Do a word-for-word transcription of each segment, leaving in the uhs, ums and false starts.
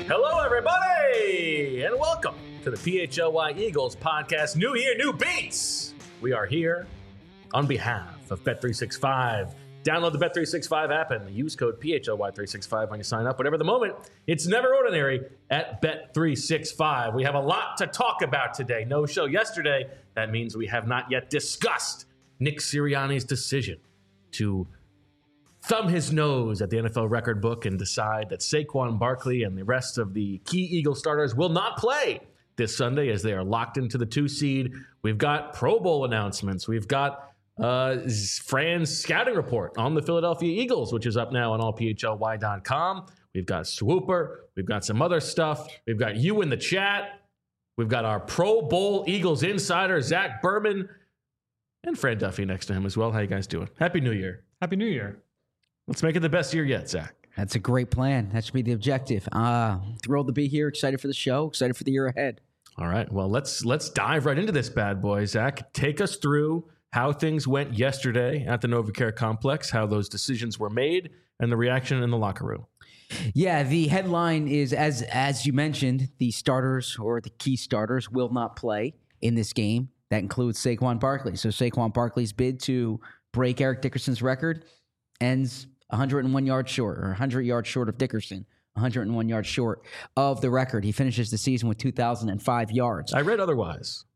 Hello, everybody, and welcome to the P H L Y Eagles podcast. New year, new beats. We are here on behalf of Bet three sixty-five. Download the Bet three sixty-five app and use code P H L Y three sixty-five when you sign up. Whatever the moment, it's never ordinary at Bet three sixty-five. We have a lot to talk about today. No show yesterday. That means we have not yet discussed Nick Sirianni's decision to thumb his nose at the N F L record book and decide that Saquon Barkley and the rest of the key Eagle starters will not play this Sunday as they are locked into the two seed. We've got Pro Bowl announcements. We've got uh, Fran's scouting report on the Philadelphia Eagles, which is up now on all P H L Y dot com. We've got Swooper. We've got some other stuff. We've got you in the chat. We've got our Pro Bowl Eagles insider, Zach Berman, and Fran Duffy next to him as well. How you guys doing? Happy New Year. Happy New Year. Let's make it the best year yet, Zach. That's a great plan. That should be the objective. Uh, thrilled to be here. Excited for the show. Excited for the year ahead. All right. Well, let's let's dive right into this bad boy. Zach, take us through how things went yesterday at the NovaCare Complex, how those decisions were made, and the reaction in the locker room. Yeah, the headline is, as as you mentioned, the starters or the key starters will not play in this game. That includes Saquon Barkley. So Saquon Barkley's bid to break Eric Dickerson's record ends one hundred one yards short, or one hundred yards short of Dickerson, one hundred one yards short of the record. He finishes the season with two thousand five yards. I read otherwise.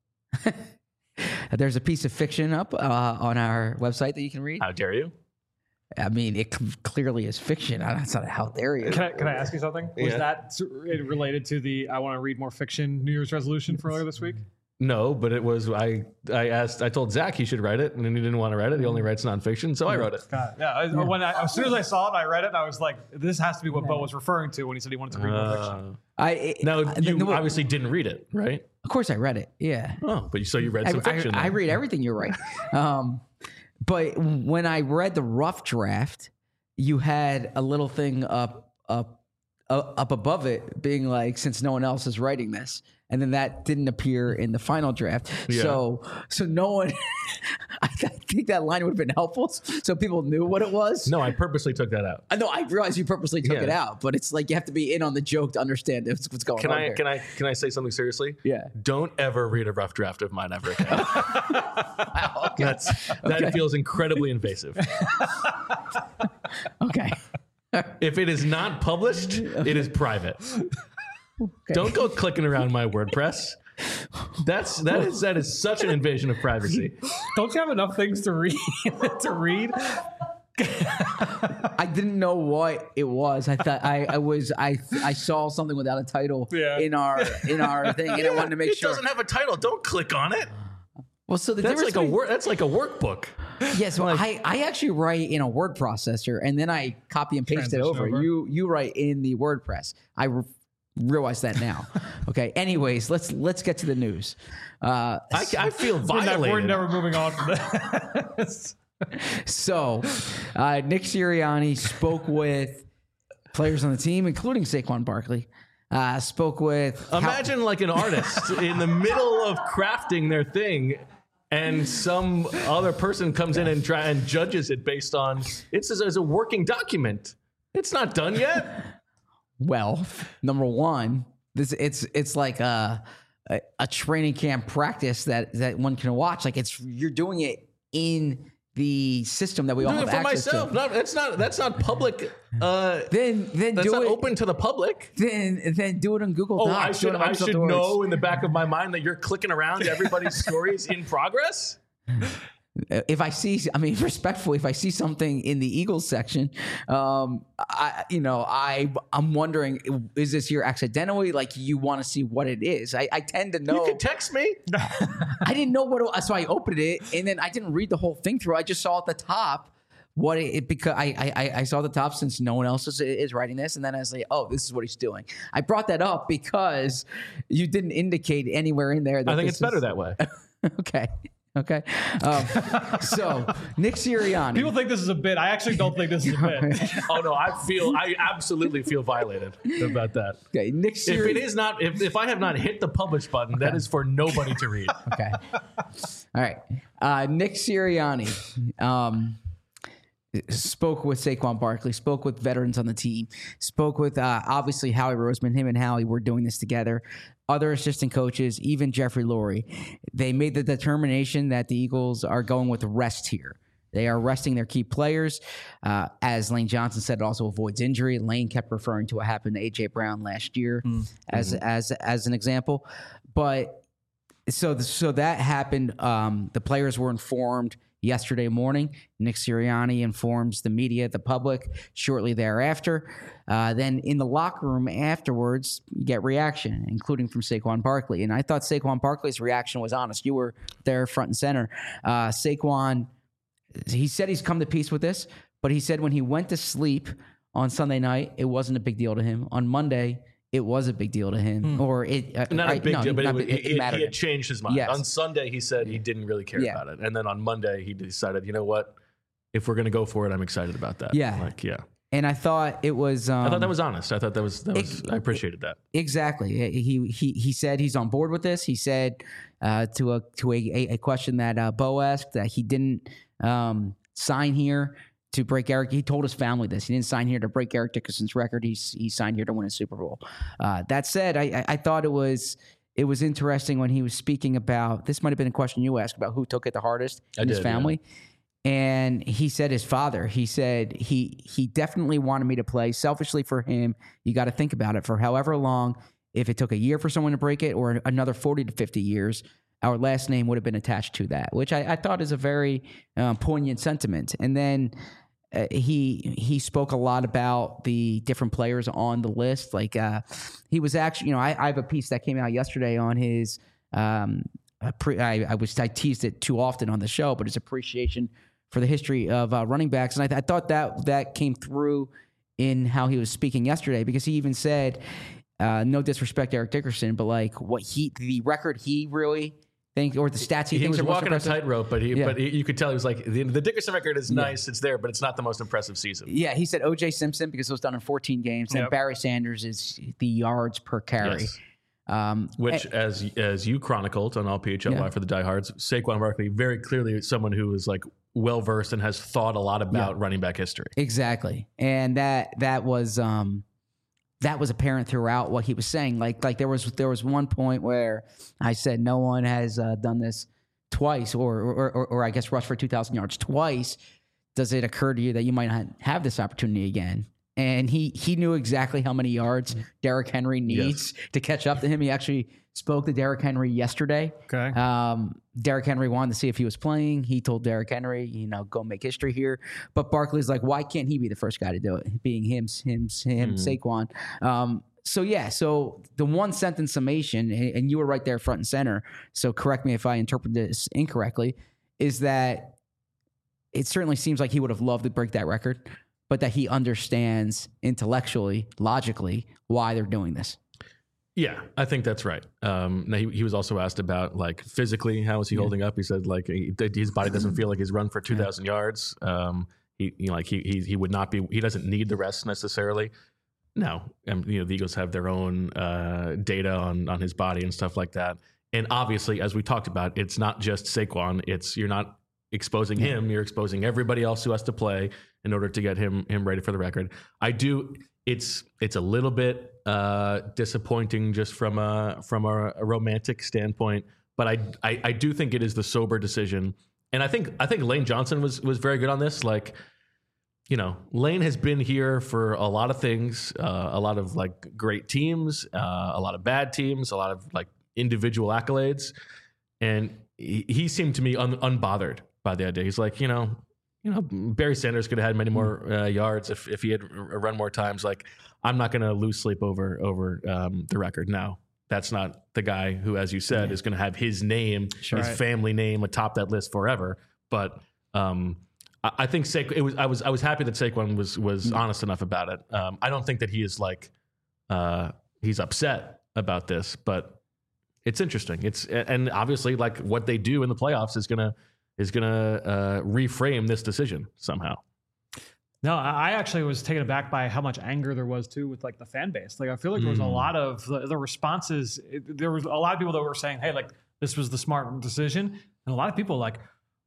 There's a piece of fiction up uh, on our website that you can read. How dare you? I mean, it c- clearly is fiction. That's not how dare you. Can I, can I ask you something? Was Yeah. that s- related to the I want to read more fiction New Year's resolution for earlier this week? No, but it was, I I asked, I told Zach he should write it, and then he didn't want to write it. He only writes nonfiction, so I wrote it. God, yeah. I, When I, as soon as I saw it, I read it, and I was like, this has to be what Bo was referring to when he said he wanted to read more fiction. Uh, I it, now, I- you no, obviously didn't read it, right? of course, I read it. Yeah. Oh, but you, so you read I, some fiction. I, I then. read everything. You're right. um, but when I read the rough draft, you had a little thing up up uh, up above it, being like, since no one else is writing this, and then that didn't appear in the final draft. Yeah. So so no one. I think that line would have been helpful, so people knew what it was. No, I purposely took that out. I know. I realize you purposely took Yeah. it out, but it's like you have to be in on the joke to understand what's what's going Can on. I here. can I can I say something seriously? Yeah. Don't ever read a rough draft of mine ever again. Wow, okay. That's that Okay. feels incredibly invasive. Okay. If it is not published, it is private. Don't go clicking around my WordPress. That's that is that is such an invasion of privacy. Don't you have enough things to read? to read? I didn't know what it was. I thought I, I was I I saw something without a title Yeah. in our in our thing, and I wanted to make it sure. doesn't have a title. Don't click on it. Well, so the That's difference like a between- wor- That's like a workbook. Yeah, so I, I actually write in a word processor, and then I copy and paste it Transition over. over. You you write in the WordPress. I re- realize that now. Okay. Anyways, let's let's get to the news. Uh, I, I feel We're, ne- violated. we're never moving on from this. So, uh, Nick Sirianni spoke with players on the team, including Saquon Barkley. Uh, spoke with how- Imagine like an artist in the middle of crafting their thing, and some other person comes in and try and judges it based on it's as, as a working document. It's not done yet. well, number one, this it's it's like a, a a training camp practice that that one can watch. Like it's you're doing it in the system that we all Doing have it for access myself. to. Not, that's not that's not public. Uh, Then then that's do not it. open to the public. Then then do it on Google Oh, Docs. I do should it on I Microsoft should Words. know in the back of my mind that you're clicking around everybody's stories in progress. If I see, I mean, respectfully, if I see something in the Eagles section, um, I, you know, I, I'm wondering, is this here accidentally? Like you want to see what it is? I, I tend to know. You can text me. I didn't know what, it, so I opened it and then I didn't read the whole thing through. I just saw at the top what it, it because I, I, I saw the top since no one else is, is writing this, and then I was like, oh, this is what he's doing. I brought that up because you didn't indicate anywhere in there that I think this it's better is- that way. Okay. Okay. Um, so Nick Sirianni. People think this is a bit. I actually don't think this is a bit. Oh no, I feel I absolutely feel violated about that. Okay, Nick If Sirianni. it is not, if, if I have not hit the publish button, that is for nobody to read. Okay. All right. Uh, Nick Sirianni um, spoke with Saquon Barkley, spoke with veterans on the team, spoke with uh, obviously Howie Roseman. Him and Howie were doing this together. Other assistant coaches, even Jeffrey Lurie. They made the determination that the Eagles are going with rest here. They are resting their key players. Uh, as Lane Johnson said, it also avoids injury. Lane kept referring to what happened to A J Brown last year mm-hmm. as as as an example. But so the, so that happened. Um, the players were informed yesterday morning. Nick Sirianni informs the media, the public, shortly thereafter. Uh, then in the locker room afterwards, you get reaction, including from Saquon Barkley. And I thought Saquon Barkley's reaction was honest. You were there front and center. Uh, Saquon, he said he's come to peace with this, but he said when he went to sleep on Sunday night, it wasn't a big deal to him. On Monday, it was a big deal to him, mm. or it uh, not a big I, no, deal, but it, it, it, it, it he had changed his mind. Yes. On Sunday, he said he didn't really care yeah. about it, and then on Monday, he decided, you know what, if we're going to go for it, I'm excited about that. Yeah, like yeah. And I thought it was. Um, I thought that was honest. I thought that was. That was it, I appreciated that. Exactly. He he he said he's on board with this. He said uh, to a to a, a question that uh, Bo asked that he didn't um, sign here to break Eric. He told his family this. He didn't sign here to break Eric Dickerson's record. He's he signed here to win a Super Bowl. Uh, that said, I, I thought it was it was interesting when he was speaking about, this might have been a question you asked about who took it the hardest in I his did, family. Yeah. And he said his father. He said he he definitely wanted me to play. Selfishly for him, you got to think about it. For however long, if it took a year for someone to break it or another forty to fifty years, our last name would have been attached to that, which I, I thought is a very um, poignant sentiment. And then uh, he he spoke a lot about the different players on the list. Like uh, he was actually, you know, I, I have a piece that came out yesterday on his. Um, pre, I, I was I teased it too often on the show, but his appreciation for the history of uh, running backs, and I, th- I thought that that came through in how he was speaking yesterday, because he even said, uh, no disrespect to Eric Dickerson, but like what he the record he really. Think, or the stats he, he thinks was are walking a tightrope, but he, yeah. but he, you could tell he was like the, the Dickerson record is nice, yeah. it's there, but it's not the most impressive season. Yeah, he said O J Simpson because it was done in fourteen games, yep. and Barry Sanders is the yards per carry, yes. um, which and, as as you chronicled on All P H L Y yeah. for the diehards, Saquon Barkley very clearly someone who is like well versed and has thought a lot about yeah. running back history. Exactly, and that that was. Um, That was apparent throughout what he was saying. Like, like there was there was one point where I said no one has uh, done this twice, or or, or or I guess rushed for two thousand yards twice. Does it occur to you that you might not have this opportunity again? And he he knew exactly how many yards Derrick Henry needs yes. to catch up to him. He actually spoke to Derrick Henry yesterday. Okay. Um, Derrick Henry wanted to see if he was playing. He told Derrick Henry, you know, go make history here. But Barkley's like, why can't he be the first guy to do it? Being him, him, him, mm-hmm. Saquon. Um, so yeah, so the one sentence summation, and, and you were right there front and center. So correct me if I interpret this incorrectly, is that it certainly seems like he would have loved to break that record, but that he understands intellectually, logically, why they're doing this. Yeah, I think that's right. Um, now he, he was also asked about like physically, how is he yeah. holding up? He said like he, his body doesn't feel like he's run for two thousand yeah. yards. Um, he, you know, like he, he he would not be. He doesn't need the rest necessarily. No, um, you know the Eagles have their own uh, data on on his body and stuff like that. And obviously, as we talked about, it's not just Saquon. It's you're not exposing yeah. him. You're exposing everybody else who has to play in order to get him him ready for the record. I do. It's it's a little bit uh, disappointing just from a from a, a romantic standpoint, but I, I I do think it is the sober decision, and I think I think Lane Johnson was was very good on this. Like, you know, Lane has been here for a lot of things, uh, a lot of like great teams, uh, a lot of bad teams, a lot of like individual accolades, and he, he seemed to me un, unbothered by the idea. He's like, you know. You know, Barry Sanders could have had many more uh, yards if, if he had run more times. Like, I'm not going to lose sleep over over um, the record. No, that's not the guy who, as you said, yeah. is going to have his name, sure, his right. family name atop that list forever. But um, I, I think Sa- it was. I was. I was happy that Saquon was was mm-hmm. honest enough about it. Um, I don't think that he is like uh, he's upset about this, but it's interesting. It's and obviously like what they do in the playoffs is going to. is going to uh, reframe this decision somehow. No, I actually was taken aback by how much anger there was too with like the fan base. Like I feel like there was mm. a lot of the, the responses. It, there was a lot of people that were saying, "Hey, like this was the smart decision," and a lot of people like,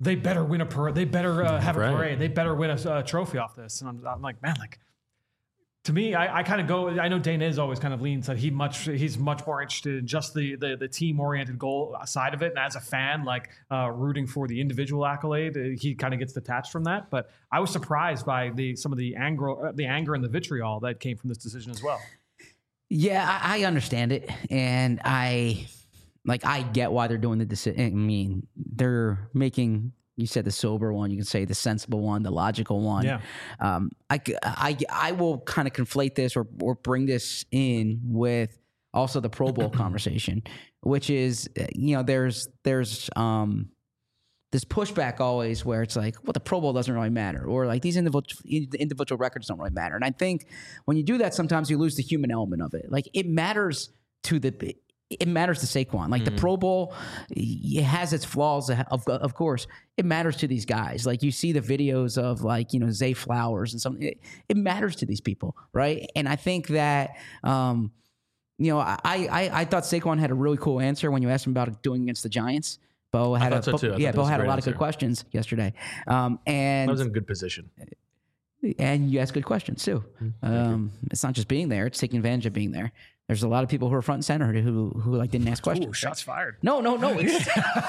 they better win a parade. They better uh, have Right. a parade. They better win a uh, trophy off this. And I'm, I'm like, man, like to me, I, I kind of go. I know Dana is always kind of leans that he much he's much more interested in just the the, the team oriented goal side of it. And as a fan, like uh, rooting for the individual accolade, uh, he kind of gets detached from that. But I was surprised by the some of the anger, uh, the anger and the vitriol that came from this decision as well. Yeah, I, I understand it, and I like I get why they're doing the decision. I mean, they're making. You said the sober one. You can say the sensible one, the logical one. Yeah. Um, I, I, I will kind of conflate this or or bring this in with also the Pro Bowl conversation, which is you know there's there's um this pushback always where it's like, well, the Pro Bowl doesn't really matter, or like these individual individual records don't really matter. And I think when you do that, sometimes you lose the human element of it. Like it matters to the. It matters to Saquon. Like mm-hmm. the Pro Bowl, it has its flaws, of of course. It matters to these guys. Like you see the videos of like, you know, Zay Flowers and something. It, it matters to these people, right? And I think that, um, you know, I, I I thought Saquon had a really cool answer when you asked him about doing against the Giants. Bo had a, so too. yeah, Bo had a lot answer. of good questions yesterday. Um, and I was in a good position. And you ask good questions too. Um, it's not just being there; it's taking advantage of being there. There's a lot of people who are front and center who who like didn't ask questions. Ooh, shots fired. No, no, no. It's,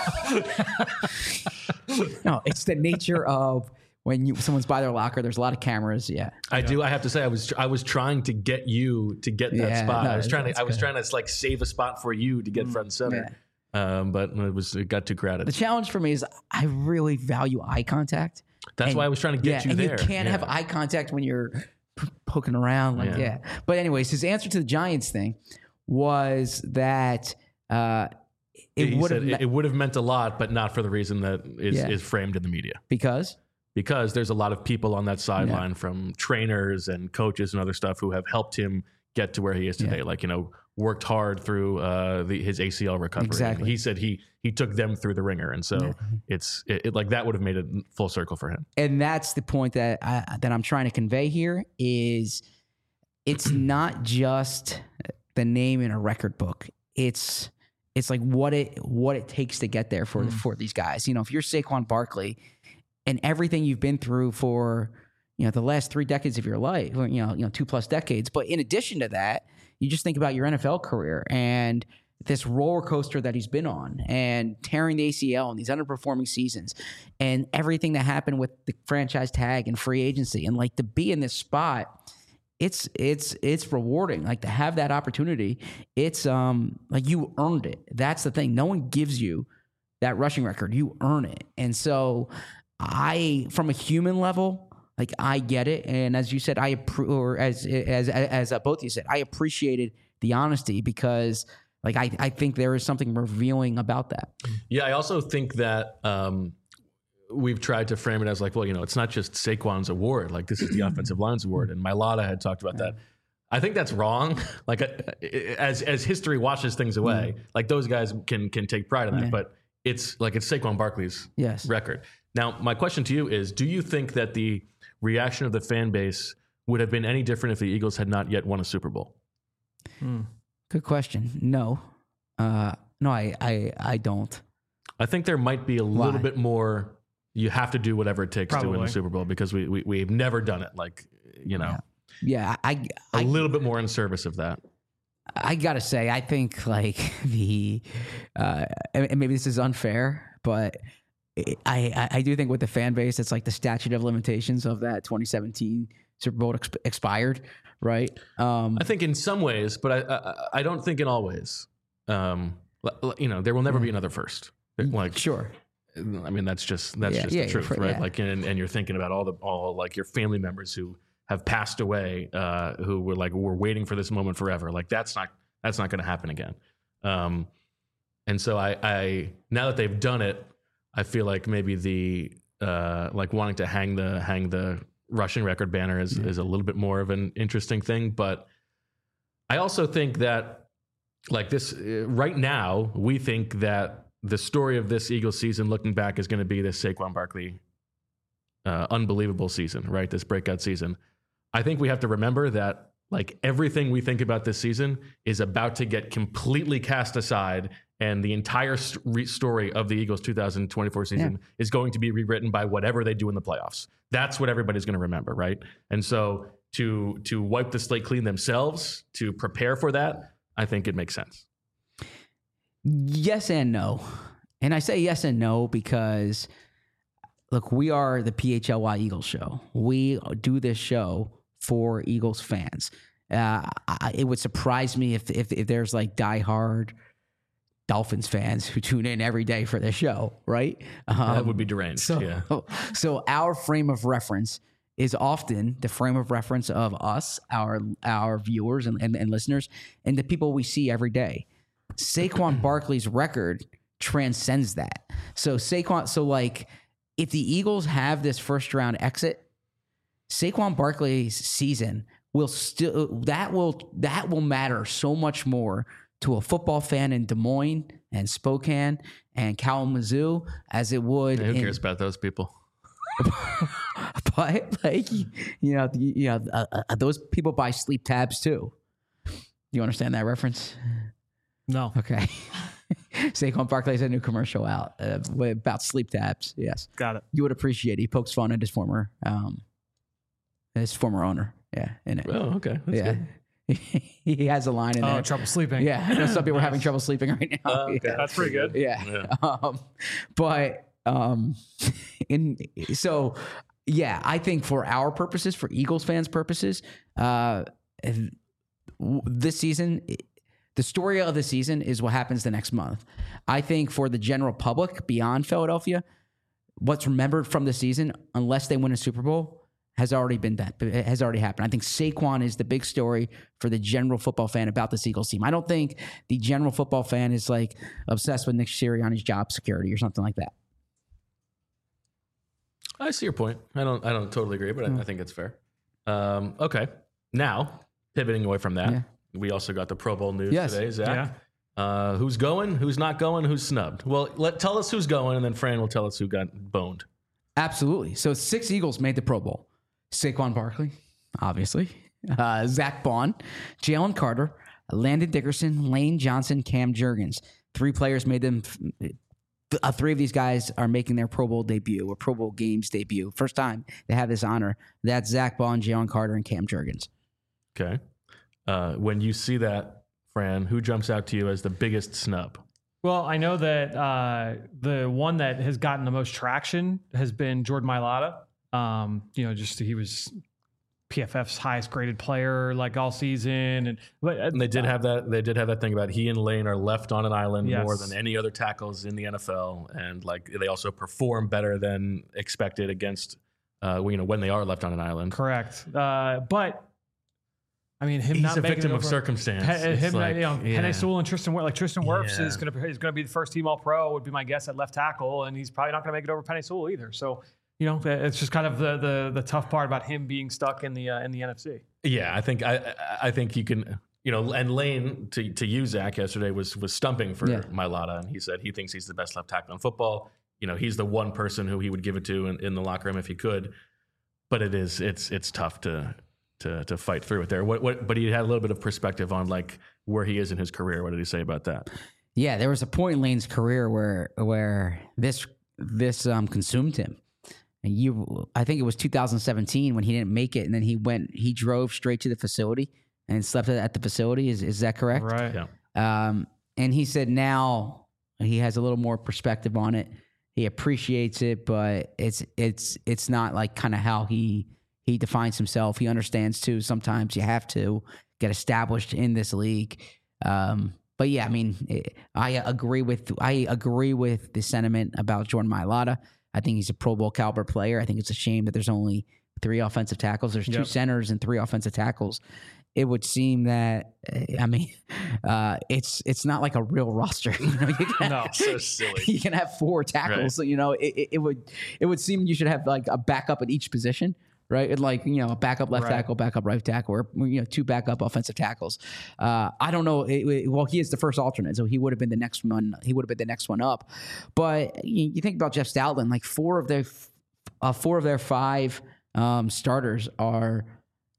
no, it's the nature of when you someone's by their locker. There's a lot of cameras. Yeah, I yeah. do. I have to say, I was I was trying to get you to get that yeah, spot. No, I was trying to I was good. trying to like save a spot for you to get mm, front and center. Yeah. Um, but it was it got too crowded. The challenge for me is I really value eye contact. That's and, why I was trying to get yeah, you and there. You can't yeah. have eye contact when you're p- poking around. Like, yeah. yeah. But anyways, his answer to the Giants thing was that uh, it would have me- it would have meant a lot, but not for the reason that is, yeah. is framed in the media. Because? Because there's a lot of people on that sideline yeah. from trainers and coaches and other stuff who have helped him get to where he is today. Yeah. Like, you know, worked hard through uh, the, his A C L recovery. Exactly. And he said he he took them through the ringer, and so yeah. it's it, it, like that would have made it full circle for him. And that's the point that I, that I'm trying to convey here is it's not just the name in a record book. It's it's like what it what it takes to get there for mm. for these guys. You know, if you're Saquon Barkley and everything you've been through for you know the last three decades of your life, or, you know, you know two plus decades, but in addition to that, you just think about your N F L career and this roller coaster that he's been on and tearing the A C L and these underperforming seasons and everything that happened with the franchise tag and free agency. And like to be in this spot, it's, it's, it's rewarding. Like to have that opportunity, it's um like you earned it. That's the thing. No one gives you that rushing record. You earn it. And so I, from a human level, like I get it, and as you said, I appre- or as as as uh, both of you said, I appreciated the honesty because, like, I, I think there is something revealing about that. Yeah, I also think that um, we've tried to frame it as like, well, you know, it's not just Saquon's award. Like this is the offensive line's award, and Mailata had talked about that. I think that's wrong. Like as as history washes things away, mm. like those guys can can take pride in that, yeah. but it's like it's Saquon Barkley's yes. record. Now, my question to you is: do you think that the reaction of the fan base would have been any different if the Eagles had not yet won a Super Bowl? Hmm. Good question. No, uh, no, I, I, I don't. I think there might be a Why? little bit more. You have to do whatever it takes Probably. to win the Super Bowl because we, we we've never done it. Like you know, yeah, yeah I, a I, little bit more in service of that. I gotta say, I think like the, uh, and maybe this is unfair, but. I, I do think with the fan base, it's like the statute of limitations of that twenty seventeen Super Bowl exp- expired, right? Um, I think in some ways, but I I, I don't think in all ways. Um, you know, there will never be another first. Like sure, I mean that's just that's yeah, just yeah, the truth, for, right? Yeah. Like and, and you're thinking about all the all like your family members who have passed away, uh, who were like were waiting for this moment forever. Like that's not that's not going to happen again. Um, and so I I now that they've done it. I feel like maybe the uh, like wanting to hang the hang the rushing record banner is, yeah. is a little bit more of an interesting thing. But I also think that like this uh, right now, we think that the story of this Eagles season looking back is going to be this Saquon Barkley uh, unbelievable season, right? This breakout season. I think we have to remember that like everything we think about this season is about to get completely cast aside and the entire st- re- story of the Eagles' two thousand twenty-four season yeah. is going to be rewritten by whatever they do in the playoffs. That's what everybody's going to remember, right? And so to to wipe the slate clean themselves, to prepare for that, I think it makes sense. Yes and no. And I say yes and no because, look, we are the P H L Y Eagles show. We do this show for Eagles fans. Uh, I, it would surprise me if, if if there's like diehard Dolphins fans who tune in every day for this show, right? Um, that would be deranged. So, yeah. so our frame of reference is often the frame of reference of us, our our viewers and, and, and listeners, and the people we see every day. Saquon Barkley's record transcends that. So Saquon, so like if the Eagles have this first round exit, Saquon Barkley's season will still that will that will matter so much more to a football fan in Des Moines and Spokane and Kalamazoo as it would. Yeah, who in, cares about those people? But like you know, you know, uh, uh, those people buy sleep tabs too. You understand that reference? No. Okay. Saquon Barkley has a new commercial out uh, about sleep tabs. Yes, got it. You would appreciate it. He pokes fun at his former, um, his former owner. Yeah, in it. Oh, okay. That's yeah. good. He has a line in oh, there. trouble sleeping. Yeah, I know some people are having trouble sleeping right now. Uh, okay. yeah. That's pretty good. Yeah. Yeah. Um, but um, in so yeah, I think for our purposes, for Eagles fans' purposes, uh, this season, the story of the season is what happens the next month. I think for the general public beyond Philadelphia, what's remembered from the season, unless they win a Super Bowl, has already been done. It has already happened. I think Saquon is the big story for the general football fan about this Eagles team. I don't think the general football fan is like obsessed with Nick Sirianni's job security or something like that. I see your point. I don't. I don't totally agree, but Mm. I, I think it's fair. Um, okay, now pivoting away from that, Yeah. we also got the Pro Bowl news Yes. today. Zach, Yeah. uh, who's going? Who's not going? Who's snubbed? Well, let tell us who's going, and then Fran will tell us who got boned. Absolutely. So six Eagles made the Pro Bowl. Saquon Barkley, obviously. Uh, Zach Bond, Jalen Carter, Landon Dickerson, Lane Johnson, Cam Jurgens. Three players made them. Uh, three of these guys are making their Pro Bowl debut or Pro Bowl games debut. First time they have this honor. That's Zach Bond, Jalen Carter, and Cam Jurgens. Okay. Uh, when you see that, Fran, who jumps out to you as the biggest snub? Well, I know that uh, the one that has gotten the most traction has been Jordan Mailata. Um, you know, just he was P F F's highest graded player like all season, and but uh, And they did have that. They did have that thing about he and Lane are left on an island Yes. more than any other tackles in the N F L, and like they also perform better than expected against, uh, you know, when they are left on an island. correct. Uh, but I mean, him He's not a making victim it of over- circumstance. Pe- It's him, like, you know, yeah. Penei Sewell and Tristan Wirfs. Like Tristan Wirfs Yeah. is going to is going to be the first team All Pro. Would be my guess at left tackle, and he's probably not going to make it over Penei Sewell either. So, you know, it's just kind of the the the tough part about him being stuck in the uh, in the N F C. Yeah, I think I I think you can, you know, and Lane to to you, Zach, yesterday was was stumping for Yeah. Mailata, and he said he thinks he's the best left tackle in football. You know, he's the one person who he would give it to in, in the locker room if he could. But it is it's it's tough to to to fight through it there. What what? But he had a little bit of perspective on like where he is in his career. What did he say about that? Yeah, there was a point in Lane's career where where this this um, consumed him. And you, I think it was two thousand seventeen when he didn't make it, and then he went, he drove straight to the facility and slept at the facility. Is is that correct? Right. Yeah. Um, and he said now he has a little more perspective on it. He appreciates it, but it's it's it's not like kind of how he he defines himself. He understands too. Sometimes you have to get established in this league. Um, but yeah, I mean, it, I agree with I agree with the sentiment about Jordan Mailata. I think he's a Pro Bowl caliber player. I think it's a shame that there's only three offensive tackles. There's two Yep. centers and three offensive tackles. It would seem that I mean, uh, it's it's not like a real roster. You know, you can No. have, So silly. you can have four tackles. Right. So you know, it, it, it would it would seem you should have like a backup at each position, right? And like you know, a backup left Right. tackle, backup right tackle, or you know, two backup offensive tackles. Uh, I don't know. It, it- well, he is the first alternate, so he would have been the next one. He would have been the next one up. But you, you think about Jeff Stoutland, like four of their uh, four of their five um, starters are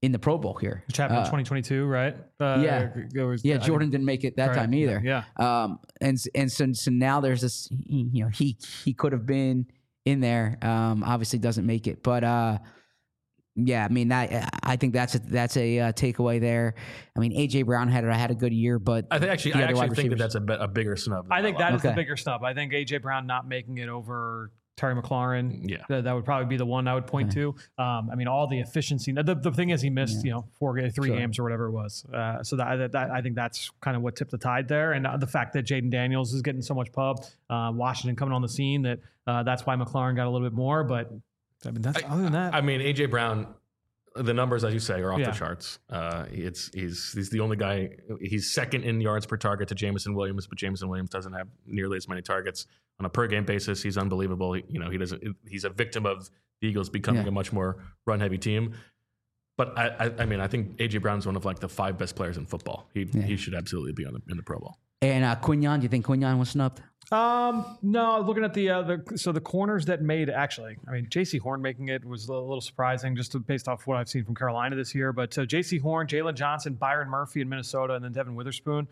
in the Pro Bowl here. Which happened Uh, in twenty twenty-two, right? Uh, yeah. it was- Yeah, I Jordan think- didn't make it that Right. time either. Yeah. Um, and and so so now there's this. You know, he he could have been in there. Um, obviously doesn't make it, but uh, yeah. I mean, I I think that's a that's a uh, takeaway there. I mean, A J Brown had had a good year, but I think actually, the I other actually wide think that receivers- that's a, bi- a bigger snub. than I think Lyle. that is the Okay. bigger snub. I think A J Brown not making it over Terry McLaurin. Yeah. That, that would probably be the one I would point to. Um, I mean, all the efficiency. The, the thing is, he missed, you know, four, three Sure. games or whatever it was. Uh, so that, that, that I think that's kind of what tipped the tide there. And uh, the fact that Jaden Daniels is getting so much pub, uh, Washington coming on the scene, that uh, that's why McLaurin got a little bit more. But I mean, that's other than that. I mean, A J Brown, the numbers, as you say, are off Yeah. the charts. Uh, it's he's he's the only guy. He's second in yards per target to Jameson Williams, but Jameson Williams doesn't have nearly as many targets on a per game basis. He's unbelievable. He, you know, he doesn't. He's a victim of the Eagles becoming Yeah. a much more run heavy team. But I, I, I mean, I think A J Brown's one of like the five best players in football. He Yeah. he should absolutely be on the in the Pro Bowl. and uh, Quinyon. Do you think Quinyon was snubbed? Um, no, looking at the, uh, the so the corners that made actually, I mean, J C Horn making it was a little surprising just to, based off what I've seen from Carolina this year. But so J C Horn, Jalen Johnson, Byron Murphy in Minnesota, and then Devin Witherspoon.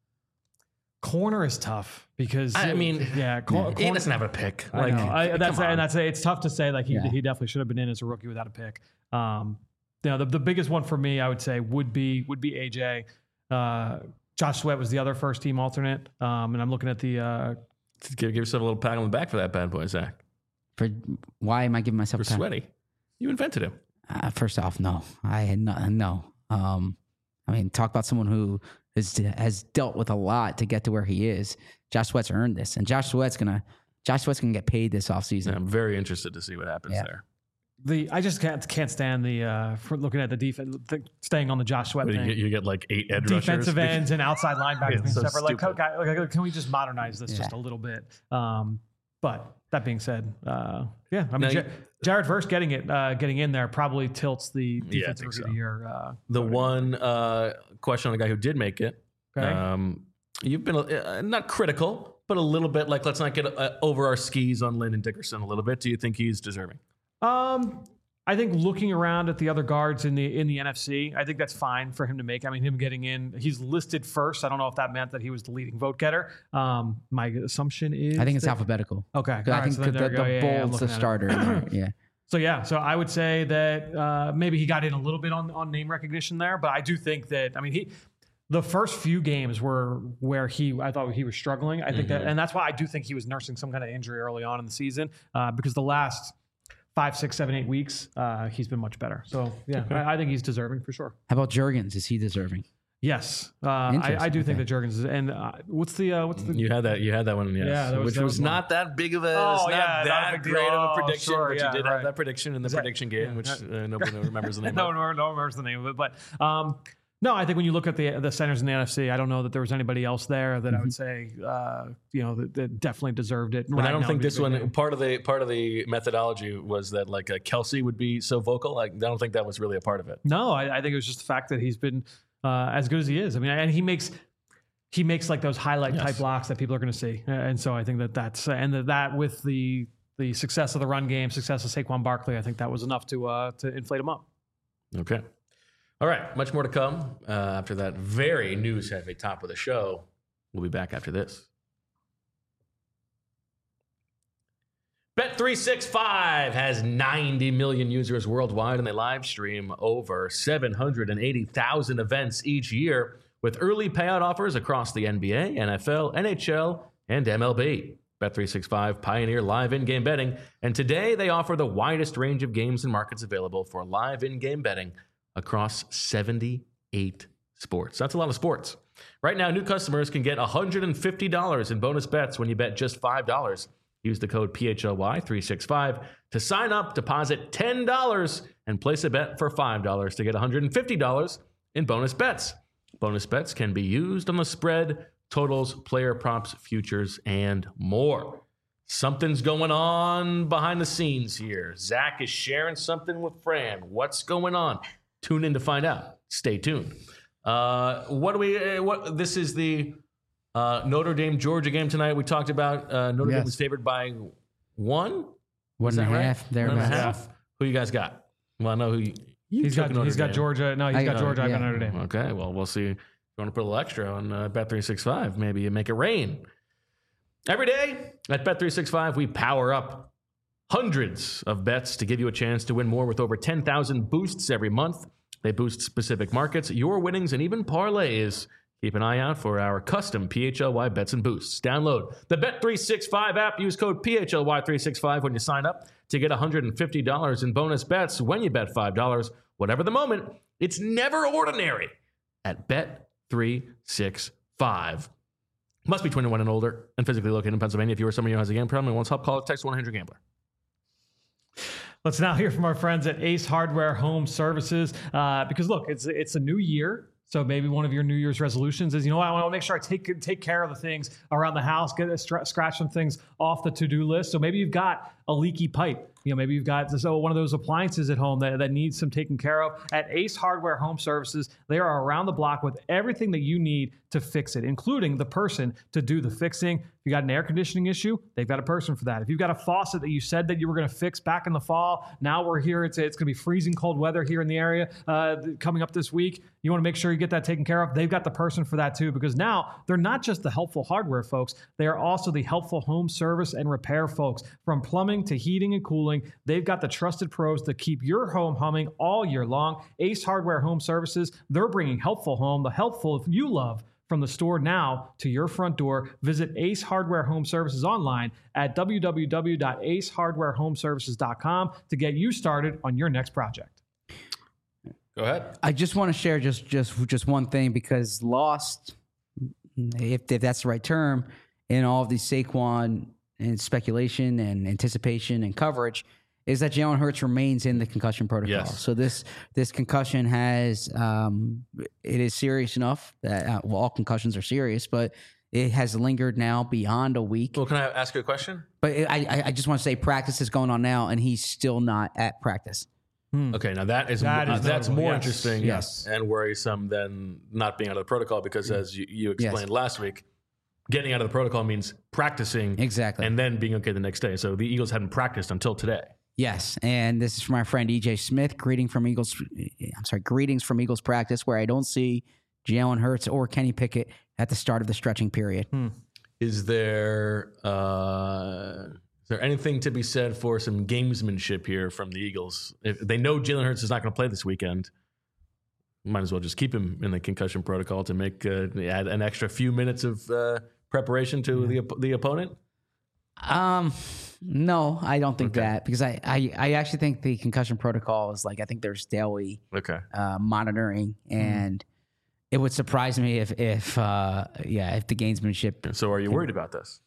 Corner is tough because I mean, yeah, cor- He corner, doesn't have a pick. I Like, know. I, come that's on. and that's it's tough to say. Like he, Yeah. he definitely should have been in as a rookie without a pick. Um, you know, the, the biggest one for me, I would say, would be would be A J. Uh, Josh Sweat was the other first team alternate, um, and I'm looking at the. Uh, give, give yourself a little pat on the back for that bad boy, Zach. For why am I giving myself For a pat? sweaty, you invented him. Uh, first off, no, I had no, no. Um, I mean, talk about someone who has has dealt with a lot to get to where he is. Josh Sweat's earned this, and Josh Sweat's gonna Josh Sweat's gonna get paid this offseason. And I'm very interested to see what happens Yeah. there. The I just can't can't stand the uh, for looking at the defense, th- staying on the Josh Sweat What, you, thing. get, you get like eight edge Defensive rushers. ends and outside linebackers Yeah, being so separate. Like, stupid. guy- like, can we just modernize this just Yeah. a little bit? Um, but that being said, uh, yeah, I mean, Now Ja- you- Jared Verse getting it, uh, getting in there probably tilts the I defensive think rookie so. of the year. Uh, The voting. one uh, question on the guy who did make it. Okay. Um, you've been uh, not critical, but a little bit like, let's not get uh, over our skis on Lyndon Dickerson a little bit. Do you think he's deserving? Um, I think looking around at the other guards in the in the N F C, I think that's fine for him to make. I mean, him getting in, he's listed first. I don't know if that meant that he was the leading vote getter. Um, my assumption is I think it's that- alphabetical. Okay, 'Cause all I right, think so the, then the, there you go. Yeah, yeah, I'm bold's the looking at it. starter. in there, yeah. So yeah, so I would say that uh, maybe he got in a little bit on, on name recognition there, but I do think that I mean he, the first few games were where he I thought he was struggling. I think that, and that's why I do think he was nursing some kind of injury early on in the season uh, because the last five, six, seven, eight weeks uh, he's been much better. So yeah, I, I think he's deserving for sure. How about Jurgens? Is he deserving? Yes, uh, I, I Interesting, do think okay. that Jurgens is. And uh, what's the uh, what's the You had that. You had that one. Yes. Yeah, that was- which that was, was one. not that big of a. Oh, it's not yeah, not a that big deal. great of Oh, a prediction, sure, but yeah, you did right. have that prediction in the that- prediction game, yeah, which that- uh, nobody remembers the name no, of. one, no one remembers the name of it, but um, no, I think when you look at the the centers in the N F C, I don't know that there was anybody else there that I would say, uh, you know, that, that definitely deserved it. And I don't think this one. Part of the part of the methodology was that like uh, Kelsey would be so vocal. Like I don't think that was really a part of it. No, I, I think it was just the fact that he's been uh, as good as he is. I mean, and he makes he makes like those highlight Yes. type blocks that people are going to see, and so I think that that's and that, that with the the success of the run game, success of Saquon Barkley, I think that was enough to uh, to inflate him up. Okay. All right. Much more to come uh, after that very news heavy top of the show. We'll be back after this. Bet three sixty-five has ninety million users worldwide, and they live stream over seven hundred eighty thousand events each year with early payout offers across the N B A, N F L, N H L, and M L B. Bet three sixty-five pioneer live in-game betting, and today they offer the widest range of games and markets available for live in-game betting across seventy-eight sports. That's a lot of sports. Right now, new customers can get one hundred fifty dollars in bonus bets when you bet just five dollars. Use the code P H L Y three sixty-five to sign up, deposit ten dollars, and place a bet for five dollars to get one hundred fifty dollars in bonus bets. Bonus bets can be used on the spread, totals, player props, futures, and more. Something's going on behind the scenes here. Zach is sharing something with Fran. What's going on? Tune in to find out. Stay tuned. Uh, what do we? Uh, what? This is the uh, Notre Dame Georgia game tonight. We talked about uh, Notre Dame Yes. was favored by one. One Is and a that right? half. One and a Thereabouts. half. Who you guys got? Well, I know who. You, You He's took got Notre he's got Dame. Georgia. No, he's I- got uh, Georgia. I got yeah. Notre Dame. Okay, well, we'll see. If you want to put a little extra on uh, Bet three sixty-five, maybe you make it rain. Every day at Bet three sixty-five, we power up hundreds of bets to give you a chance to win more with over ten thousand boosts every month. They boost specific markets, your winnings, and even parlays. Keep an eye out for our custom P H L Y bets and boosts. Download the Bet three sixty-five app. Use code P H L Y three sixty-five when you sign up to get one hundred fifty dollars in bonus bets when you bet five dollars. Whatever the moment, it's never ordinary at Bet three sixty-five. Must be twenty-one and older and physically located in Pennsylvania. If you or somebody who has a game problem and wants help, call or text one hundred gambler. Let's now hear from our friends at Ace Hardware Home Services. Uh, because look, it's it's a new year. So maybe one of your New Year's resolutions is, you know what, I want to make sure I take take care of the things around the house, get a stra- scratch some things off the to-do list. So maybe you've got a leaky pipe. You know, maybe you've got so one of those appliances at home that, that needs some taken care of. At Ace Hardware Home Services, they are around the block with everything that you need to fix it, including the person to do the fixing. If you got an air conditioning issue, they've got a person for that. If you've got a faucet that you said that you were going to fix back in the fall, now we're here. It's it's going to be freezing cold weather here in the area uh, coming up this week. You want to make sure you get that taken care of. They've got the person for that too, because now they're not just the helpful hardware folks. They are also the helpful home service and repair folks. From plumbing to heating and cooling, they've got the trusted pros that keep your home humming all year long. Ace Hardware Home Services, they're bringing helpful home, the helpful you love, from the store now to your front door. Visit Ace Hardware Home Services online at w w w dot ace hardware home services dot com to get you started on your next project. Go ahead. I just want to share just just just one thing, because lost, if, if that's the right term, in all of these Saquon and speculation and anticipation and coverage, is that Jalen Hurts remains in the concussion protocol. Yes. So this this concussion has um, it is serious enough that uh, well, all concussions are serious, but it has lingered now beyond a week. Well, can I ask you a question? But it, I I just want to say practice is going on now, and he's still not at practice. Okay, now that is, That uh, is that's notable, more yes. interesting Yes. and worrisome than not being out of the protocol, because as you, you explained last week, getting out of the protocol means practicing Exactly. and then being okay the next day. So the Eagles hadn't practiced until today. Yes, and this is from my friend E J Smith. Greeting from Eagles. I'm sorry, greetings from Eagles practice, where I don't see Jalen Hurts or Kenny Pickett at the start of the stretching period. Hmm. Is there uh, is there anything to be said for some gamesmanship here from the Eagles? If they know Jalen Hurts is not going to play this weekend, might as well just keep him in the concussion protocol to make uh, add an extra few minutes of uh, preparation to the op- the opponent. Um, no, I don't think Okay. that, because I, I I actually think the concussion protocol is like, I think there's daily Okay. uh, monitoring, and it would surprise me if if uh, yeah if the gamesmanship. So are you worried about this?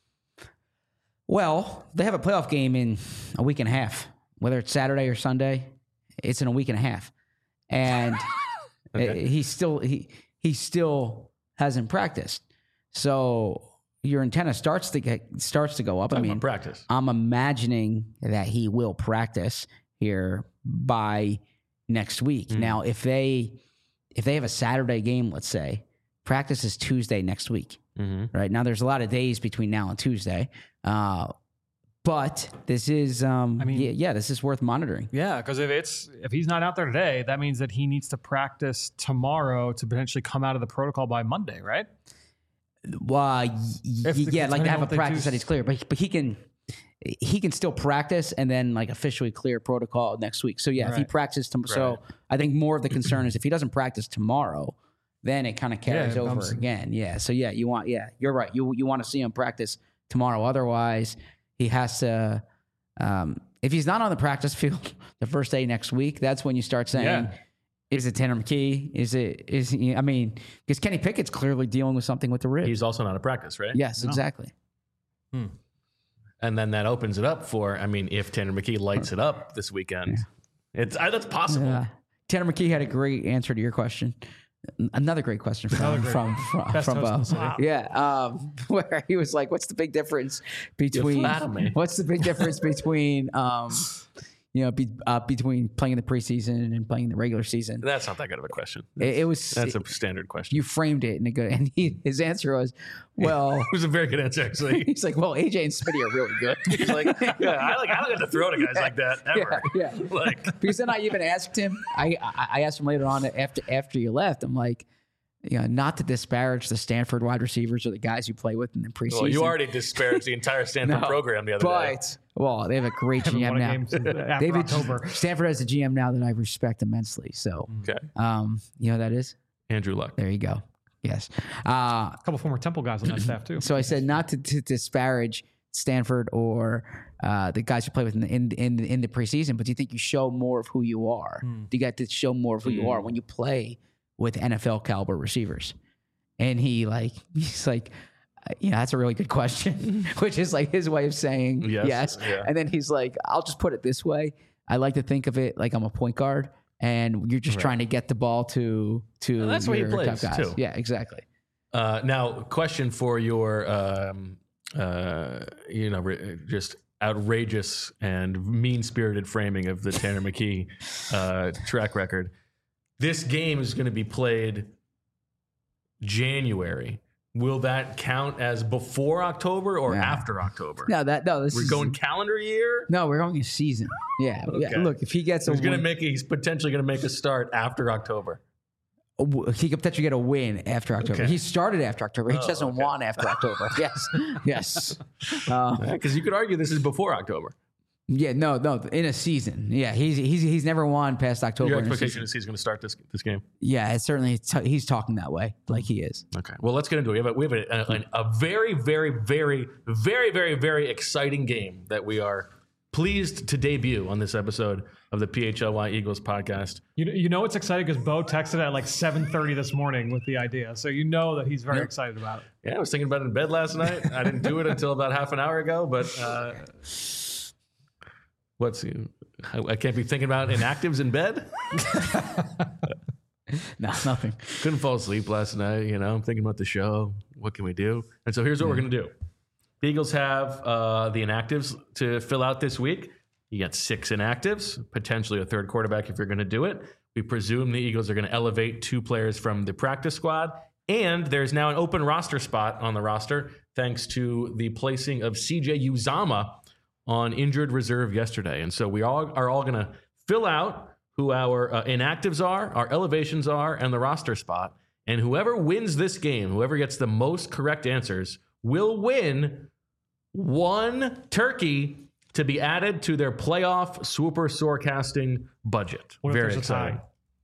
Well, they have a playoff game in a week and a half, whether it's Saturday or Sunday. It's in a week and a half, and Okay. he still he he still hasn't practiced. So your antenna starts to get starts to go up. I Talking mean, about practice. I'm imagining that he will practice here by next week. Mm. Now, if they if they have a Saturday game, let's say, practice is Tuesday next week. Mm-hmm. Right now, there's a lot of days between now and Tuesday, uh, but this is, um, I mean- yeah, yeah, this is worth monitoring. Yeah, because if it's if he's not out there today, that means that he needs to practice tomorrow to potentially come out of the protocol by Monday, right? Well, y- If the- yeah, like depending to have on a what they practice do- that he's clear, but but he can he can still practice and then like officially clear protocol next week. So yeah, if he Right. practices, tom- so I think more of the concern is if he doesn't practice tomorrow, then it kind of carries it over comes- again. Yeah, so yeah, you want yeah, you're right. You you want to see him practice tomorrow. Otherwise, he has to. Um, if he's not on the practice field the first day next week, that's when you start saying. Yeah. Is it Tanner McKee? Is it is he, I mean, because Kenny Pickett's clearly dealing with something with the ribs. He's also not at practice, right? Yes, exactly. And then that opens it up for, I mean, if Tanner McKee lights it up this weekend, it's I, that's possible. Yeah. Tanner McKee had a great answer to your question. Another great question from Another great- from from, Best from host in Bo. the city. Yeah, um, where he was like, "What's the big difference between flatter me. what's the big difference between um, you know, be, uh, between playing in the preseason and playing in the regular season. That's not that good of a question. It, it was. That's a standard question. You framed it in a good, and he, his answer was, "Well." It was a very good answer, actually. He's like, "Well, A J and Smitty are really good." He's like, yeah, I like I don't get to throw to guys like that ever. Yeah, yeah. Like, because then I even asked him. I, I I asked him later on after after you left. I'm like, you know, not to disparage the Stanford wide receivers or the guys you play with in the preseason. well, you already disparaged the entire Stanford No, program the other day. But well, they have a great Haven't G M won a now. game since after David October. Stanford has a G M now that I respect immensely. So, Okay, um, you know who that is? Andrew Luck. There you go. Yes. Uh, A couple former Temple guys on that staff too. so I said not to, to disparage Stanford or uh, the guys who play with in the, in, in, the- in the preseason, but do you think you show more of who you are? Hmm. Do you get to show more of who you are when you play with N F L caliber receivers? And he like, he's like, uh, yeah, that's a really good question, which is like his way of saying Yes, yes. yeah. And then he's like, I'll just put it this way. I like to think of it like I'm a point guard and you're just Right. trying to get the ball to, to Well, that's what he your top plays, guys. too. Yeah, exactly. Uh, now, question for your, um, uh, you know, re- just outrageous and mean-spirited framing of the Tanner McKee uh, track record. This game is going to be played January. Will that count as before October or Yeah. after October? No, that, no, this We're is going calendar year. No, we're going a season. Yeah. yeah. Okay. Look, if he gets a He's going to win, make. He's potentially going to make a start after October. he could potentially get a win after October. Okay. He started after October. He just Oh, doesn't okay. want after October. Yes. Yes. Uh, Because you could argue this is before October. yeah. No. No. In a season. Yeah. He's he's he's never won past October. Your in a expectation season. is he's going to start this this game. Yeah. It's certainly t- he's talking that way, like he is. Okay. Well, let's get into it. We have a, we have a, a, a very, very, very, very, very, very exciting game that we are pleased to debut on this episode of the P H L Y Eagles podcast. You, you know it's exciting because Bo texted at like seven thirty this morning with the idea. So you know that he's very Yep. excited about it. Yeah, I was thinking about it in bed last night. I didn't do it until about half an hour ago, but uh, what's I, I can't be thinking about inactives in bed. No, nothing. Couldn't fall asleep last night. You know, I'm thinking about the show. What can we do? And so here's what we're going to do. The Eagles have uh, the inactives to fill out this week. You got six inactives, potentially a third quarterback if you're going to do it. We presume the Eagles are going to elevate two players from the practice squad. And there's now an open roster spot on the roster thanks to the placing of C J Uzama on injured reserve yesterday. And so we all are all going to fill out who our uh, inactives are, our elevations are, and the roster spot. And whoever wins this game, whoever gets the most correct answers, will win one turkey to be added to their playoff super sorecasting budget. What if Very there's a exciting.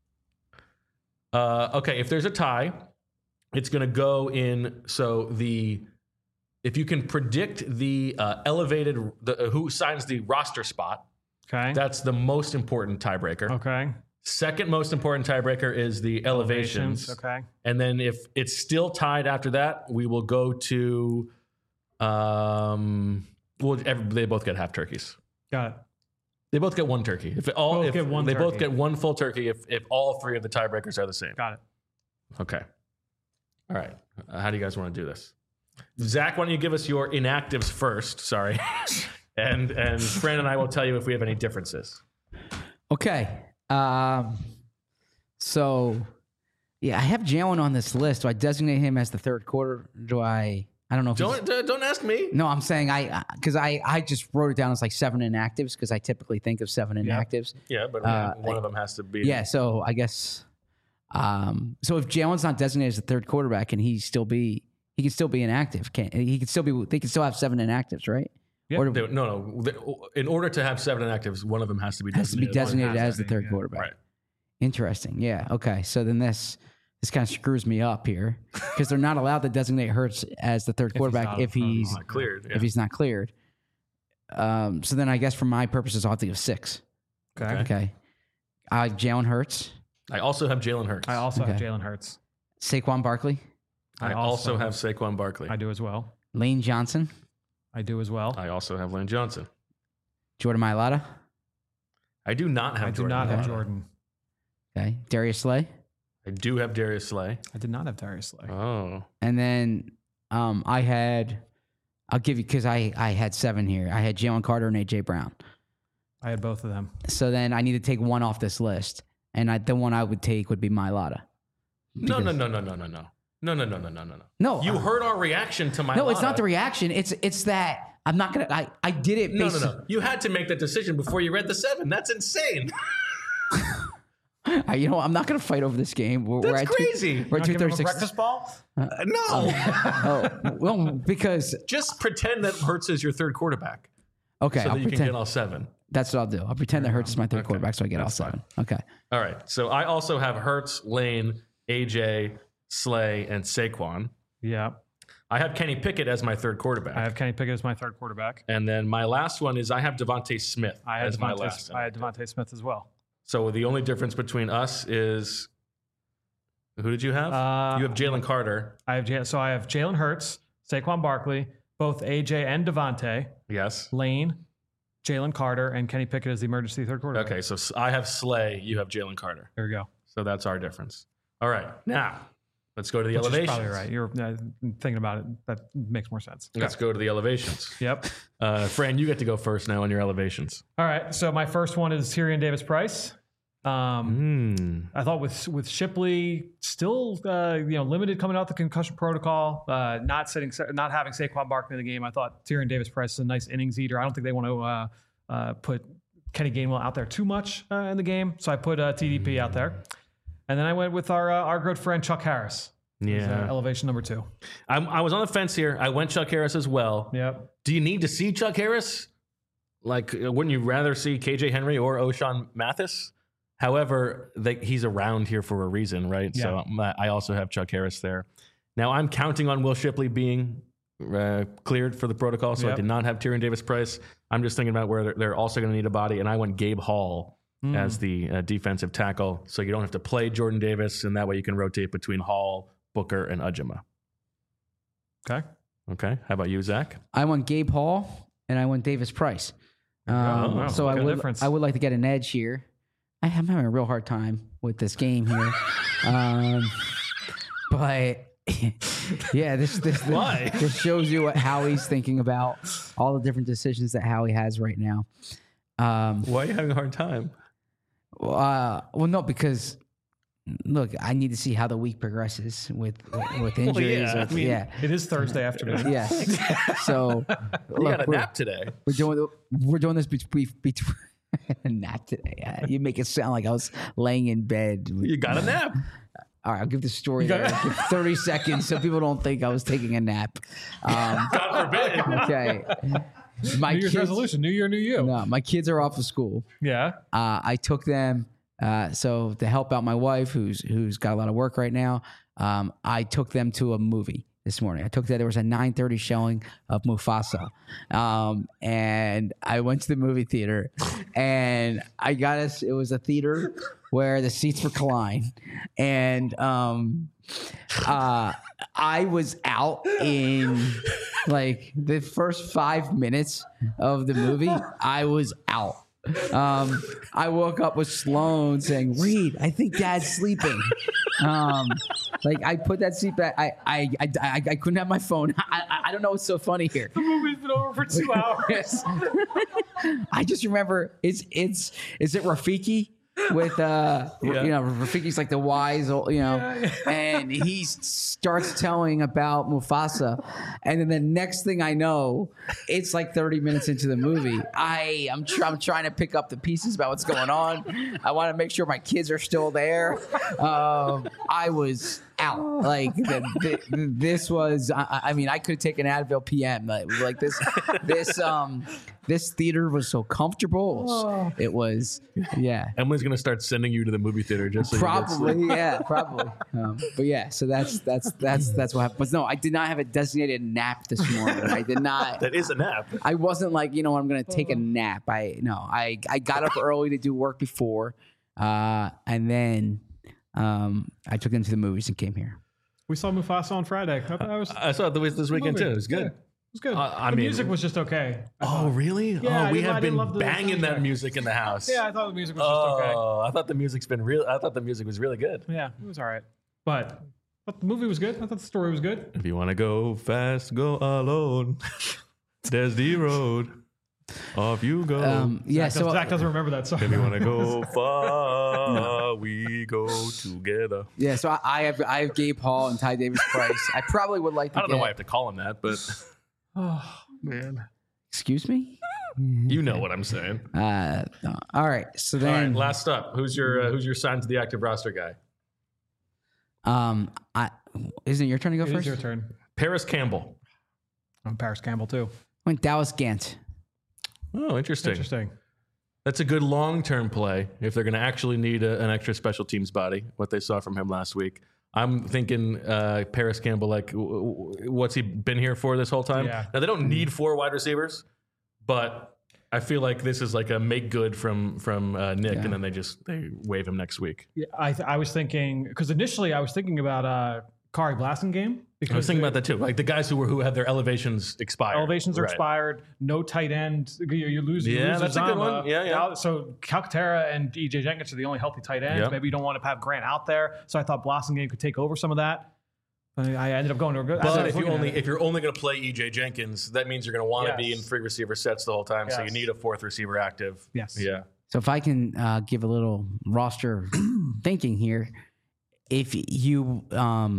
Uh, okay, if there's a tie, it's going to go in. So the if you can predict the uh, elevated the, uh, who signs the roster spot, Okay. that's the most important tiebreaker. okay. Second most important tiebreaker is the elevations. Okay. And then if it's still tied after that, we will go to um well every, they both get half turkeys. Got it. They both get one turkey. If it all Both if get one they both turkey. get one full turkey if if all three of the tiebreakers are the same. Got it. Okay. All right. Uh, how do you guys want to do this? Zach, why don't you give us your inactives first? Sorry. and and Fran and I will tell you if we have any differences. Okay. Um, so, yeah, I have Jalen on this list. Do I designate him as the third quarter? Do I? I don't know if he's- Don't uh, don't ask me. No, I'm saying I because I, I just wrote it down as like seven inactives because I typically think of seven Yeah. inactives. Yeah, but Uh, one of them has to be. Yeah, so I guess um, so if Jalen's not designated as the third quarterback, can he still be? He can still be inactive. Can he can still be? They can still have seven inactives, right? Yeah. Or They- no, no. The- In order to have seven inactives, one of them has to be has to be designated. designated has as the to be, third yeah. quarterback. Right. Interesting. Yeah. Okay. So then this this kind of screws me up here because they're not allowed to designate Hurts as the third he's quarterback not- if he's Not cleared. Yeah. if he's not cleared. Um, so then I guess for my purposes, I'll have to give six. Okay. Okay. Okay. I have Jalen Hurts, I also have Jalen Hurts. I also have Okay. Jalen Hurts. Saquon Barkley, I also have Saquon Barkley. I do as well. Lane Johnson, I do as well. I also have Lane Johnson. Jordan Mailata. I do not have I do Jordan not have Mailata. Jordan. Okay. Darius Slay. I do have Darius Slay. I did not have Darius Slay. Oh. And then um, I had, I'll give you, because I, I had seven here. I had Jalen Carter and A J Brown. I had both of them. So then I need to take one off this list, and I, the one I would take would be Mailata. No, no, no, no, no, no, no. No, no, no, no, no, no, no. No, You uh, heard our reaction to my No, it's not the reaction. It's it's that I'm not gonna. I, I did it. No, based no, no. You had to make that decision before you read the seven. That's insane. I, you know, I'm not gonna fight over this game. We're, That's we're at crazy. Two, we're at two Give him a thirty-six. breakfast ball? Uh, no. Oh, well, because Just pretend that Hurts is your third quarterback okay, so I'll that you pretend. can get all seven. That's what I'll do. I'll pretend that Hurts is my third Okay, quarterback, so I get all that's seven. Okay. All right. So I also have Hurts, Lane, A J, Slay, and Saquon. Yeah. I have Kenny Pickett as my third quarterback. I have Kenny Pickett as my third quarterback. and then my last one is I have Devontae Smith I had as my Devontae, last. I had Devontae Smith as well. So the only difference between us is who did you have? Uh, you have Jalen Carter. I have J- so I have Jalen Hurts, Saquon Barkley, both A J and Devontae, Yes. Lane, Jalen Carter, and Kenny Pickett as the emergency third quarterback. Okay. So s- I have Slay. You have Jalen Carter. There we go. So that's our difference. All right. Now let's go to the Which is elevations. probably right. You're uh, thinking about it. That makes more sense. Let's go to the elevations. Yep. Uh, Fran, you get to go first now on your elevations. All right. So my first one is Tyrion Davis Price. Um, Hmm. I thought with with Shipley still uh, you know limited coming out the concussion protocol, uh, not sitting, not having Saquon Barkley in the game. I thought Tyrion Davis Price is a nice innings eater. I don't think they want to uh, uh, put Kenny Gainwell out there too much uh, in the game, so I put uh, T D P out there, and then I went with our uh, our good friend Chuck Harris. as, Yeah. uh, elevation number two. I'm, I was on the fence here. I went Chuck Harris as well. Yep. Do you need to see Chuck Harris? Like, uh, wouldn't you rather see K J Henry or O'Shawn Mathis? However, they, he's around here for a reason, right? Yeah. So um, I also have Chuck Harris there. Now, I'm counting on Will Shipley being uh, cleared for the protocol, so I Yep. did not have Tyrion Davis Price. I'm just thinking about where they're, they're also going to need a body, and I went Gabe Hall Mm. as the uh, defensive tackle, so you don't have to play Jordan Davis, and that way you can rotate between Hall, Booker, and Ujima. Okay. Okay, how about you, Zach? I went Gabe Hall and I went Davis Price. Um, Oh, wow. so What I kind of would difference? I would like to get an edge here. I am having a real hard time with this game here. um, but yeah, this this, this Why? this shows you what Howie's thinking about all the different decisions that Howie has right now. Um, Why are you having a hard time? uh, well, no, because look, I need to see how the week progresses with with injuries. yeah, with- I mean, yeah. It is Thursday afternoon. Yeah. So You got a we're, nap today. we're doing we're doing this between between nap today. Yeah, you make it sound like I was laying in bed. You got a nap. All right, I'll give the story got there. it. Give thirty seconds so people don't think I was taking a nap. Um, God forbid. okay. My New Year's kids, resolution. New year, new you. no, my kids are off of school. Yeah. Uh, I took them uh, so to help out my wife, who's who's got a lot of work right now. Um, I took them to a movie this morning. I took that there was a nine thirty showing of Mufasa, um, and I went to the movie theater, and I got us. It was a theater where the seats recline, and um, uh, I was out in like the first five minutes of the movie. I was out. Um, I woke up with Sloan saying, "Reed, I think Dad's sleeping." Um, like I put that seat back. I I I, I, I couldn't have my phone. I, I I don't know what's so funny here. The movie's been over for two hours. I just remember it's it's is it Rafiki with uh Yeah. you know Rafiki's like the wise old, you know and he starts telling about Mufasa, and then the next thing I know it's like thirty minutes into the movie. I I'm, tr- I'm trying to pick up the pieces about what's going on. I want to make sure my kids are still there. Um, I was out like the, the, this was I, I mean I could take an Advil P M like, like this this um this theater was so comfortable. It was, it was yeah. Emily's gonna start sending you to the movie theater just so you get sleep. Probably, yeah, probably. Um, but yeah, so that's that's that's that's what happened. But no, I did not have a designated nap this morning. I did not. That is a nap. I wasn't like you know I'm going to take a nap. I no, I I got up early to do work before, uh, and then um, I took them to the movies and came here. We saw Mufasa on Friday. I, I was, I saw it this this weekend too. It was Yeah, good. it was good. Uh, I the mean- music was just okay. Oh really? Yeah, oh, we I didn't- I have didn't been love the banging that soundtrack. music in the house. Yeah, I thought the music was just okay. Oh, I thought the music's been real. I thought the music was really good. Yeah, it was all right. But, but the movie was good. I thought the story was good. If you want to go fast, go alone. There's the road. Off you go. Um, yeah, Zach, so Zach doesn't remember that song. If you want to go far, we go together. yeah, so I, I have I have Gabe Hall and Ty Davis Price. I probably would like to I don't get, know why I have to call him that, but Oh, man. Excuse me? you know what I'm saying. Uh, no. All right. So All right, then, last up. Who's your uh, who's your signed to the active roster guy? um, I isn't it your turn to go It is first? your turn. Paris Campbell. I'm Paris Campbell, too. I went Dallas Gant. Oh, interesting. Interesting. That's a good long-term play if they're going to actually need a, an extra special teams body, what they saw from him last week. I'm thinking uh, Paris Campbell, like, w- w- what's he been here for this whole time? Yeah. Now, they don't need four wide receivers, but I feel like this is like a make good from from uh, Nick, Yeah. and then they just they waive him next week. Yeah, I, th- I was thinking, because initially I was thinking about uh, Kari Blasingame. Because I was thinking the about that too. Like the guys who were who had their elevations expired. Elevations are Right. expired. No tight end. You, you lose. You Yeah, lose that's a good Uzomah. one. Yeah, yeah. Now- So Calcaterra and E J Jenkins are the only healthy tight ends. Yep. Maybe you don't want to have Grant out there. So I thought Blasingame could take over some of that. But I ended up going to a good. as I But was if you looking at only it- if you're only going to play E J Jenkins, that means you're going to want to be Yes. in free receiver sets the whole time. So you Yes. need a fourth receiver active. Yes. Yeah. So if I can uh, give a little roster thinking here, if you um,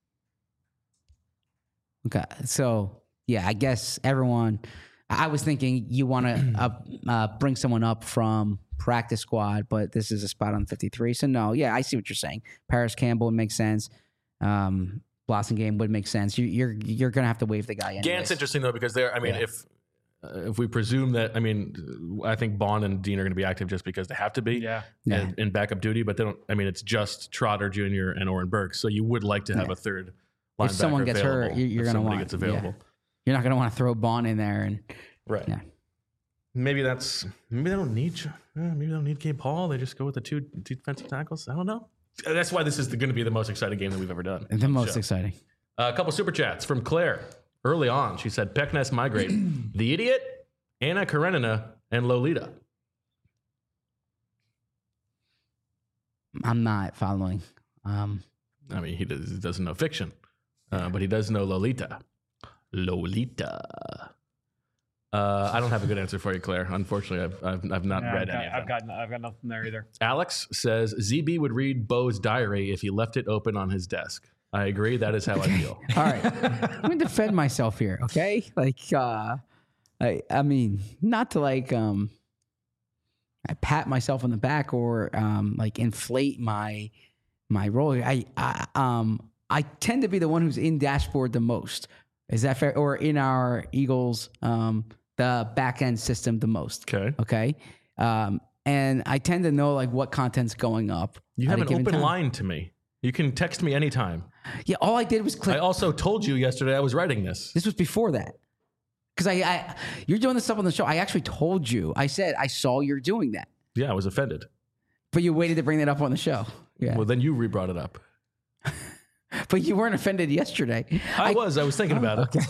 okay, so yeah, I guess everyone. I was thinking you want to uh, uh, bring someone up from practice squad, but this is a spot on fifty-three. So no, yeah, I see what you're saying. Paris Campbell would make sense. Um, Blasingame would make sense. You, you're you're gonna have to waive the guy. Anyways. Gant's interesting though because they're. I mean, Yeah. if uh, if we presume that, I mean, I think Bond and Dean are going to be active just because they have to be. Yeah. Yeah. In, in backup duty, but they don't. I mean, it's just Trotter Junior and Oren Burks. So you would like to have Yeah. a third linebacker If someone gets hurt, available you- you're if gonna somebody want- gets available. You're not gonna want to throw Bond in there and Right. Yeah. Maybe that's maybe they don't need uh, maybe they don't need Gabe Hall. They just go with the two, two defensive tackles. I don't know. That's why this is going to be the most exciting game that we've ever done. the on most show. exciting. Uh, a couple super chats from Claire early on. She said, "Peckness migrate, the idiot, Anna Karenina, and Lolita." I'm not following. Um, I mean, he, does, he doesn't know fiction, uh, but he does know Lolita. Lolita. Uh, I don't have a good answer for you, Claire. Unfortunately, I've I've, I've not Yeah, read I've, any got, of I've them. got I've got nothing there either. Alex says Z B would read Bo's diary if he left it open on his desk. I agree. That is how I feel. all right, I'm gonna defend myself here, okay? Like, uh, I, I mean, not to like, um, I pat myself on the back or um, like inflate my my role. I, I um, I tend to be the one who's in dashboard the most. Is that fair? Or in our Eagles, um, the back end system the most. Okay. Okay. Um, and I tend to know like what content's going up. You at have a an given open time. line to me. You can text me anytime. Yeah, all I did was click. I also told you yesterday I was writing this. This was before that. Because I, I, you're doing this stuff on the show. I actually told you. I said I saw you're doing that, Yeah, I was offended. but you waited to bring that up on the show. Yeah, Well, then you re-brought it up. but you weren't offended yesterday. I, was. I was thinking about it.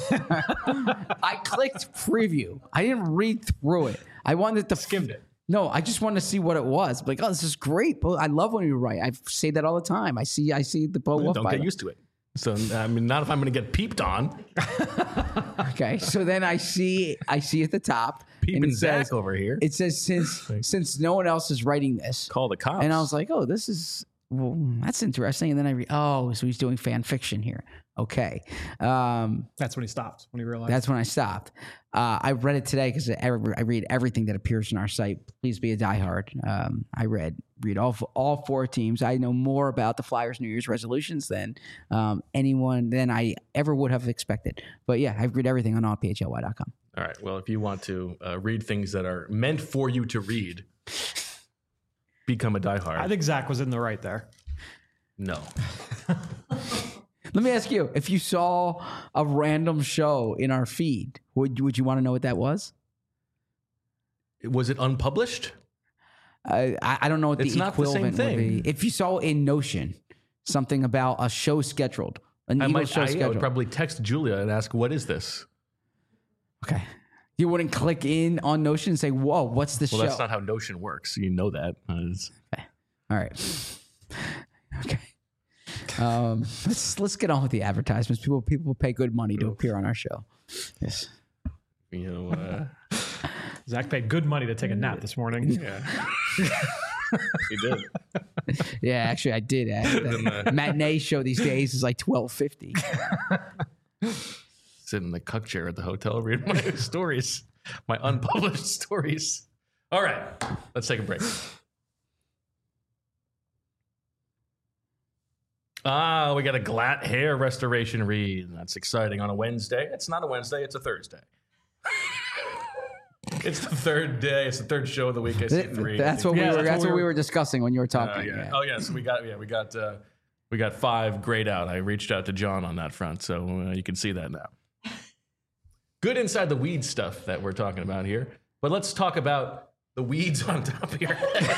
I clicked preview. I didn't read through it. I wanted to Skimmed it. No, I just wanted to see what it was. Like, oh, this is great. Bo, I love when you write. I say that all the time. I see. I see the Bo Wolf. Don't get Bible. used to it. So, I mean, not if I'm going to get peeped on. Okay, so then I see. I see at the top. and Peeping it Zach says, over here. It says since since no one else is writing this. Call the cops. And I was like, oh, this is, well, that's interesting. And then I read, oh, so he's doing fan fiction here. Okay. Um, That's when he stopped. When he realized. that's when I stopped. Uh, I read it today because I, I read everything that appears on our site. Please be a diehard. Um, I read read all all four teams. I know more about the Flyers' New Year's resolutions than um, anyone than I ever would have expected. But yeah, I've read everything on all P H L Y dot com. All right. Well, if you want to uh, read things that are meant for you to read, become a diehard. I think Zach was in the right there. no. Let me ask you: if you saw a random show in our feed, would would you want to know what that was? Was it unpublished? I I I don't know what It's the not the same equivalent would thing. be. If you saw in Notion something about a show scheduled, an I Eagles might. show I, I scheduled. would probably text Julia and ask, "What is this?" Okay, you wouldn't click in on Notion and say, "Whoa, what's this Well, show?" that's not how Notion works. You know that. Uh, it's- All right. Okay. Um, let's let's get on with the advertisements. People people pay good money to appear on our show. Yes. you know. Uh, Zach paid good money to take a nap this morning. Yeah. He did. Yeah, actually, I did. Uh, the matinee show these days is like twelve fifty. Sit in the cuck chair at the hotel reading my stories, my unpublished stories. All right, let's take a break. Ah, we got a Glatt hair restoration read. That's exciting on a Wednesday. It's not a Wednesday, it's a Thursday. It's the third day. It's the third show of the week. I see three. That's what we Yeah, were. that's That's what what we we were- were discussing when you were talking. Uh, yeah. yeah. Oh yeah. So we got yeah we got uh, we got five grayed out. I reached out to John on that front, so uh, you can see that now. Good inside the weed stuff that we're talking about here, but let's talk about the weeds on top of your head.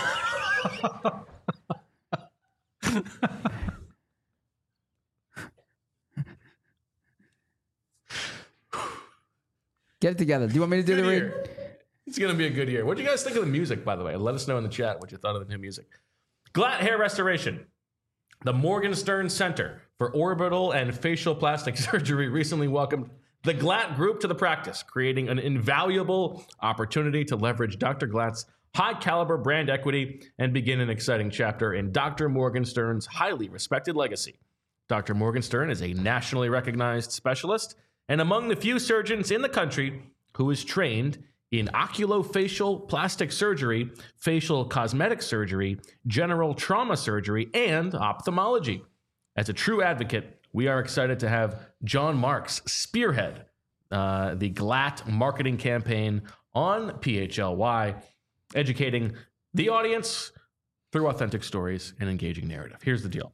Get it together. Do you want me to do Good the read? year. It's gonna be a good year. What do you guys think of the music, by the way? Let us know in the chat what you thought of the new music. Glatt hair restoration. The Morgenstern Center for Orbital and Facial Plastic Surgery recently welcomed the Glatt Group to the practice, creating an invaluable opportunity to leverage Doctor Glatt's high caliber brand equity and begin an exciting chapter in Doctor Morgenstern's highly respected legacy. Doctor Morgenstern is a nationally recognized specialist and among the few surgeons in the country who is trained in oculofacial plastic surgery, facial cosmetic surgery, general trauma surgery, and ophthalmology. As a true advocate, we are excited to have John Marks spearhead uh, the Glatt marketing campaign on P H L Y, educating the audience through authentic stories and engaging narrative. Here's the deal.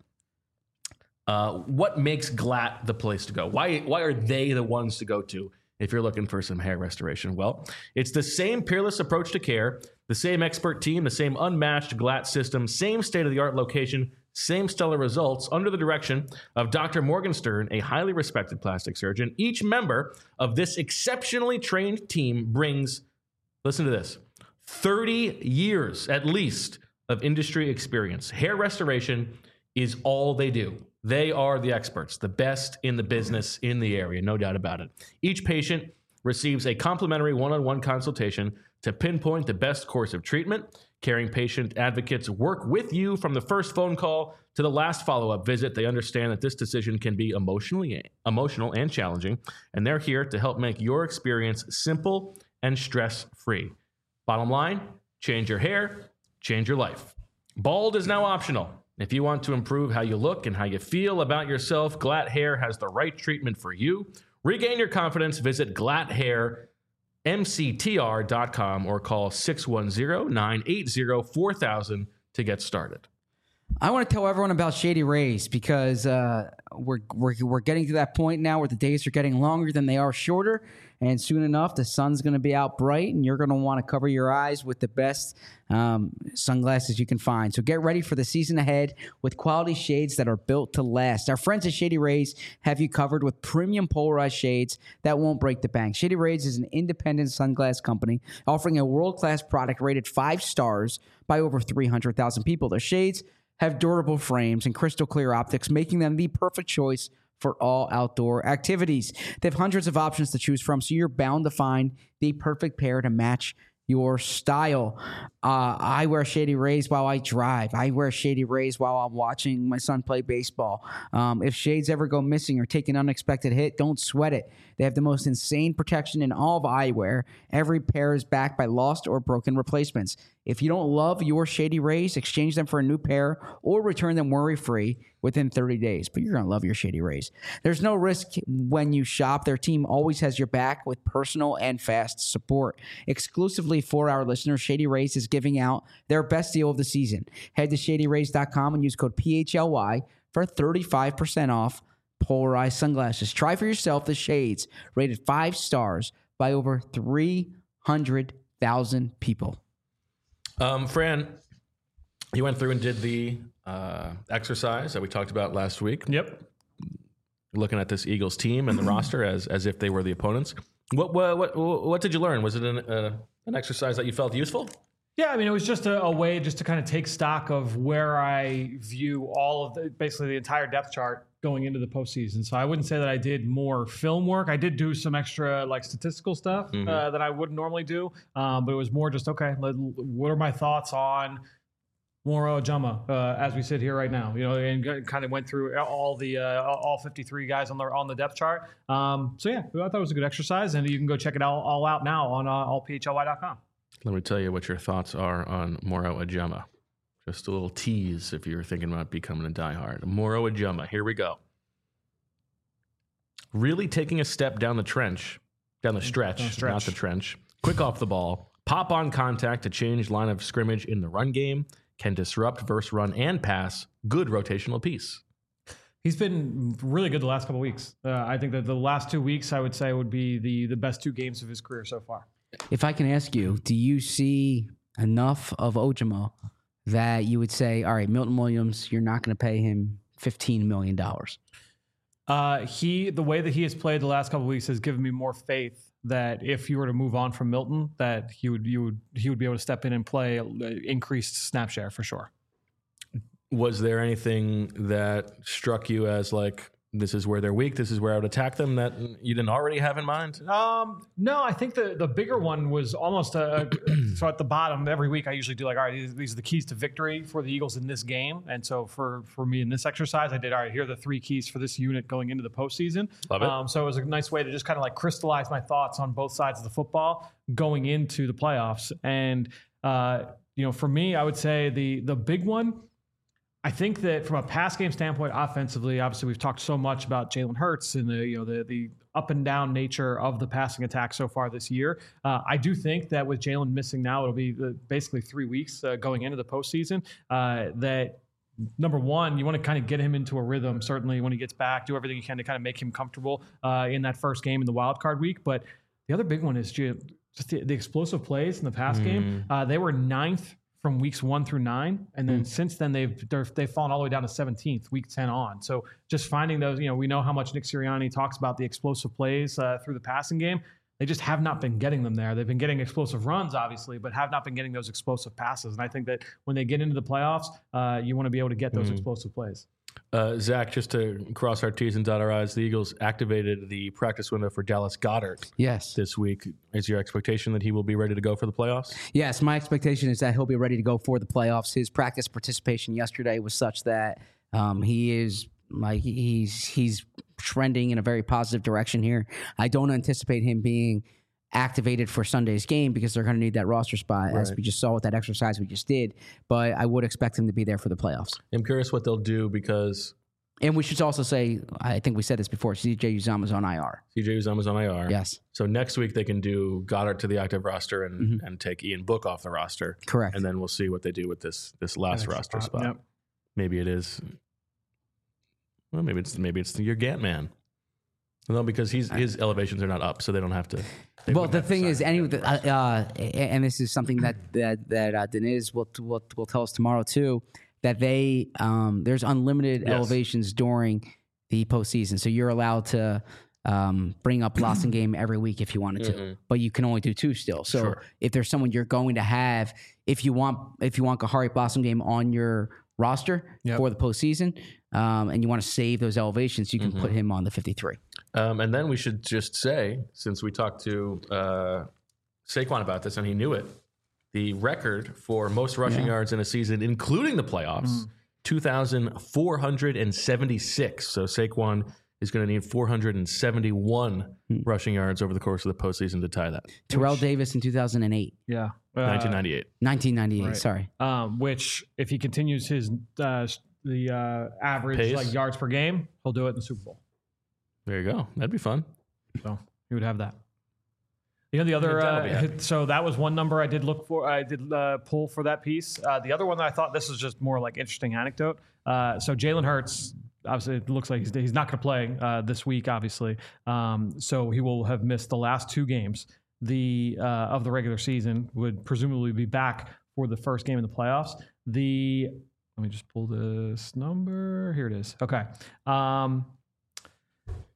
Uh, what makes Glatt the place to go? Why, why are they the ones to go to if you're looking for some hair restoration? Well, it's the same peerless approach to care, the same expert team, the same unmatched Glatt system, same state-of-the-art location, same stellar results under the direction of Doctor Morgenstern, a highly respected plastic surgeon. Each member of this exceptionally trained team brings, listen to this, thirty years at least of industry experience. Hair restoration is all they do. They are the experts, the best in the business in the area, no doubt about it. Each patient receives a complimentary one-on-one consultation to pinpoint the best course of treatment. Caring patient advocates work with you from the first phone call to the last follow-up visit. They understand that this decision can be emotionally emotional and challenging, and they're here to help make your experience simple and stress-free. Bottom line, change your hair, change your life. Bald is now optional. If you want to improve how you look and how you feel about yourself, Glatt Hair has the right treatment for you. Regain your confidence. Visit glatt hair m c t r dot com or call six one zero, nine eight zero, four thousand to get started. I want to tell everyone about Shady Rays because uh, we're, we're we're getting to that point now where the days are getting longer than they are shorter, and soon enough the sun's going to be out bright, and you're going to want to cover your eyes with the best um, sunglasses you can find. So get ready for the season ahead with quality shades that are built to last. Our friends at Shady Rays have you covered with premium polarized shades that won't break the bank. Shady Rays is an independent sunglass company offering a world-class product rated five stars by over three hundred thousand people. Their shades have durable frames and crystal clear optics, making them the perfect choice for all outdoor activities. They have hundreds of options to choose from, so you're bound to find the perfect pair to match your style. Uh, I wear Shady Rays while I drive. I wear Shady Rays while I'm watching my son play baseball. Um, if shades ever go missing or take an unexpected hit, don't sweat it. They have the most insane protection in all of eyewear. Every pair is backed by lost or broken replacements. If you don't love your Shady Rays, exchange them for a new pair or return them worry-free within thirty days. But you're going to love your Shady Rays. There's no risk when you shop. Their team always has your back with personal and fast support. Exclusively for our listeners, Shady Rays is giving out their best deal of the season. Head to shady rays dot com and use code P H L Y for thirty-five percent off polarized sunglasses. Try for yourself the shades rated five stars by over three hundred thousand people. Um, Fran, you went through and did the uh, exercise that we talked about last week. Yep. Looking at this Eagles team and the roster as as if they were the opponents. What what what, what did you learn? Was it an uh, an exercise that you felt useful? Yeah, I mean, it was just a, a way just to kind of take stock of where I view all of the, basically the entire depth chart going into the postseason. So I wouldn't say that I did more film work. I did do some extra like statistical stuff Mhm. uh, that I wouldn't normally do, um, but it was more just, okay, let, what are my thoughts on Moro Ojama uh, as we sit here right now? You know, and g- kind of went through all the uh, all fifty-three guys on the on the depth chart. Um, so yeah, I thought it was a good exercise, and you can go check it out all out now on uh, all p h l y dot com. Let me tell you what your thoughts are on Moro Ojama. Just a little tease if you're thinking about becoming a diehard. Moro Ojama, here we go. Really taking a step down the trench, down the stretch, Down the stretch. not the trench. Quick off the ball. Pop on contact to change line of scrimmage in the run game. Can disrupt versus run and pass. Good rotational piece. He's been really good the last couple of weeks. Uh, I think that the last two weeks, I would say, would be the the best two games of his career so far. If I can ask you, do you see enough of Ojama that you would say, all right, Milton Williams, you're not going to pay him fifteen million dollars? Uh, he, the way that he has played the last couple of weeks has given me more faith that if you were to move on from Milton, that he would, you would, he would be able to step in and play uh, increased snap share for sure. Was there anything that struck you as like, this is where they're weak, this is where I would attack them, that you didn't already have in mind? Um, no, I think the the bigger one was almost a, so at the bottom every week I usually do like, all right, these, these are the keys to victory for the Eagles in this game. And so for, for me in this exercise, I did, all right, here are the three keys for this unit going into the postseason. Love it. Um, so it was a nice way to just kind of like crystallize my thoughts on both sides of the football going into the playoffs. And, uh, you know, for me, I would say the the big one, I think that from a pass game standpoint, offensively, obviously we've talked so much about Jalen Hurts and the you know the the up and down nature of the passing attack so far this year. Uh, I do think that with Jalen missing now, it'll be uh, basically three weeks uh, going into the postseason. Uh, that number one, you want to kind of get him into a rhythm. Certainly, when he gets back, do everything you can to kind of make him comfortable uh, in that first game in the wild card week. But the other big one is just the, the explosive plays in the pass game. Uh, they were ninth from weeks one through nine. And then mm. since then they've, they've fallen all the way down to seventeenth, week ten on. So just finding those, you know, we know how much Nick Sirianni talks about the explosive plays uh, through the passing game. They just have not been getting them there. They've been getting explosive runs, obviously, but have not been getting those explosive passes. And I think that when they get into the playoffs, uh, you want to be able to get those mm. explosive plays. Uh, Zach, just to cross our T's and dot our I's, the Eagles activated the practice window for Dallas Goedert yes. this week. Is your expectation that he will be ready to go for the playoffs? Yes, my expectation is that he'll be ready to go for the playoffs. His practice participation yesterday was such that um, he is like he's he's trending in a very positive direction here. I don't anticipate him being activated for Sunday's game because they're going to need that roster spot, right, as we just saw with that exercise we just did. But I would expect him to be there for the playoffs. I'm curious what they'll do because... And we should also say, I think we said this before, C J Uzomah's on I R. C J Uzomah's on I R. Yes. So next week they can do Goddard to the active roster and, mm-hmm. and take Ian Book off the roster. Correct. And then we'll see what they do with this this last roster spot. Yep. Maybe it is... Well, maybe it's maybe it's your Gant man. No, because he's his elevations are not up, so they don't have to... Well, the thing is, any uh, uh, and this is something that that that uh, Deniz will, will will tell us tomorrow too, that they um, there's unlimited yes. elevations during the postseason, so you're allowed to um, bring up Blossomgame every week if you wanted to, mm-hmm. but you can only do two still. So sure. if there's someone you're going to have, if you want if you want Kahari Blossomgame on your roster yep. for the postseason, um, and you want to save those elevations, you can mm-hmm. put him on the fifty-three. Um, and then we should just say, since we talked to uh, Saquon about this and he knew it, the record for most rushing yeah. yards in a season, including the playoffs, mm. two thousand four hundred seventy-six. So Saquon is going to need four hundred seventy-one mm. rushing yards over the course of the postseason to tie that. Terrell which, Davis in two thousand eight. Yeah. Uh, nineteen ninety-eight. nineteen ninety-eight, right. sorry. Um, which, if he continues his uh, the uh, average Pace. like yards per game, he'll do it in the Super Bowl. There you go. That'd be fun. So he would have that. You know, the other, uh, so that was one number I did look for. I did uh, pull for that piece. Uh, the other one that I thought this was just more like interesting anecdote. Uh, so Jalen Hurts, obviously it looks like he's, he's not going to play uh, this week, obviously. Um, so he will have missed the last two games the uh, of the regular season, would presumably be back for the first game in the playoffs. The, let me just pull this number. Here it is. Okay. Um,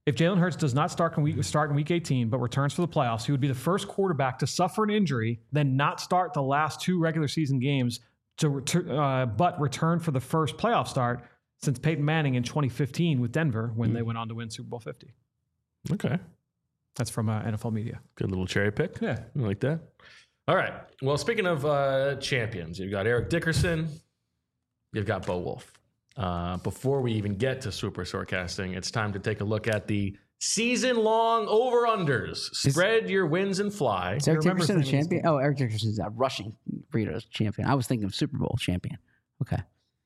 If Jalen Hurts does not start in, week, start in week eighteen, but returns for the playoffs, he would be the first quarterback to suffer an injury, then not start the last two regular season games, to return, uh, but return for the first playoff start since Peyton Manning in twenty fifteen with Denver when mm. they went on to win Super Bowl fifty. Okay. That's from uh, N F L Media. Good little cherry pick. Yeah. I like that. All right. Well, speaking of uh, champions, you've got Eric Dickerson. You've got Bo Wolf. Uh, before we even get to super forecasting, it's time to take a look at the season-long over-unders. Spread is, your wins and fly. Is Eric Dickerson the champion? Oh, Eric Dickerson is a rushing burritos champion. I was thinking of Super Bowl champion. Okay.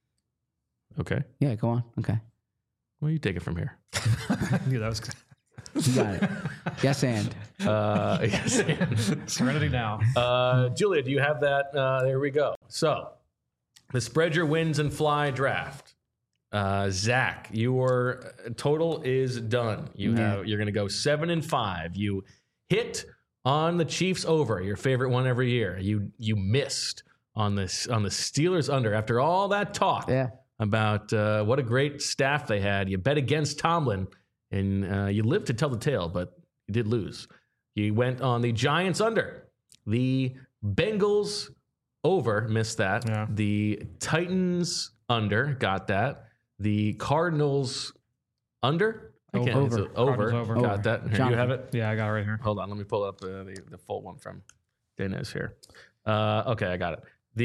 Okay. Yeah, go on. Okay. Well, you take it from here. Yeah, that was good. You got it. Yes, and. Uh, yes, and. Serenity now. Uh, Julia, do you have that? Uh, there we go. So, the spread your wins and fly draft. Uh, Zach, your total is done. You Yeah. have you're going to go seven and five. You hit on the Chiefs over, your favorite one every year. You you missed on this on the Steelers under after all that talk Yeah. about uh, what a great staff they had. You bet against Tomlin, and uh, you lived to tell the tale, but you did lose. You went on the Giants under, the Bengals over, missed that. Yeah. The Titans under, got that. The Cardinals under, I can't Over. it's over, Cardinals over. got Over. that. Here, you Jonathan. have it. Yeah, I got it right here. Hold on, let me pull up uh, the the full one from Dana's here. Uh, okay, I got it.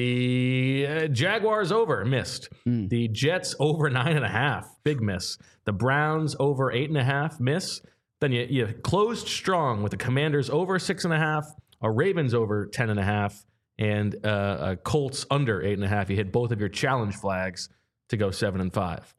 The uh, Jaguars over, missed. Mm. The Jets over nine and a half, big miss. The Browns over eight and a half, miss. Then you, you closed strong with the Commanders over six and a half, a Ravens over ten and a half, and uh, a Colts under eight and a half. You hit both of your challenge flags to go seven and five.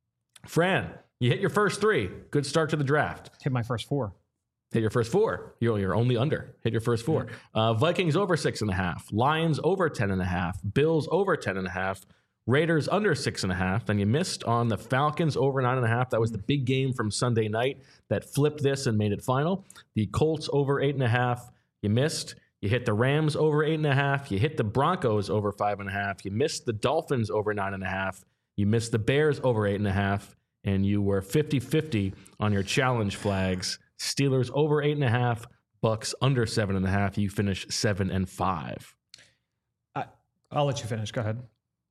Fran, you hit your first three. Good start to the draft. Hit my first four. Hit your first four. You're, you're only under. Hit your first four. Uh, Vikings over six and a half. Lions over ten and a half. Bills over ten and a half. Raiders under six and a half. Then you missed on the Falcons over nine and a half. That was the big game from Sunday night that flipped this and made it final. The Colts over eight and a half. You missed. You hit the Rams over eight and a half. You hit the Broncos over five and a half. You missed the Dolphins over nine and a half. You missed the Bears over eight and a half. And you were fifty-fifty on your challenge flags. Steelers over eight and a half. Bucks under seven and a half. You finish seven and five. I, I'll let you finish. Go ahead.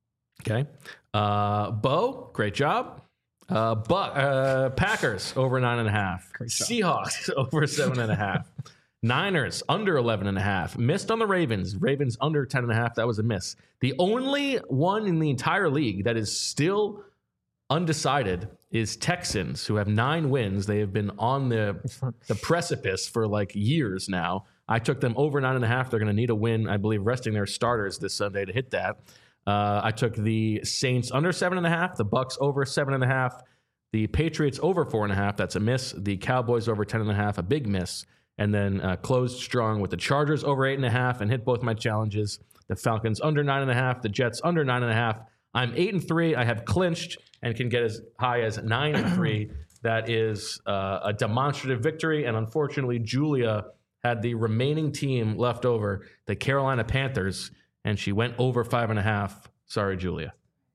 Okay. Uh, Bo, great job. Uh, but uh, Packers over nine and a half. Great job. Seahawks over seven and a half. Niners under eleven and a half. Missed on the Ravens. Ravens under ten and a half. That was a miss. The only one in the entire league that is still undecided is Texans, who have nine wins. They have been on the the precipice for like years now. I took them over nine and a half. They're going to need a win, I believe, resting their starters this Sunday to hit that. Uh, I took the Saints under seven and a half, the Bucks over seven and a half, the Patriots over four and a half. That's a miss. The Cowboys over ten and a half, a big miss. And then uh, closed strong with the Chargers over eight and a half and hit both my challenges. The Falcons under nine and a half, the Jets under nine and a half. I'm eight and three. I have clinched and can get as high as nine and three. That is uh, a demonstrative victory. And unfortunately, Julia had the remaining team left over, the Carolina Panthers, and she went over five and a half. Sorry, Julia.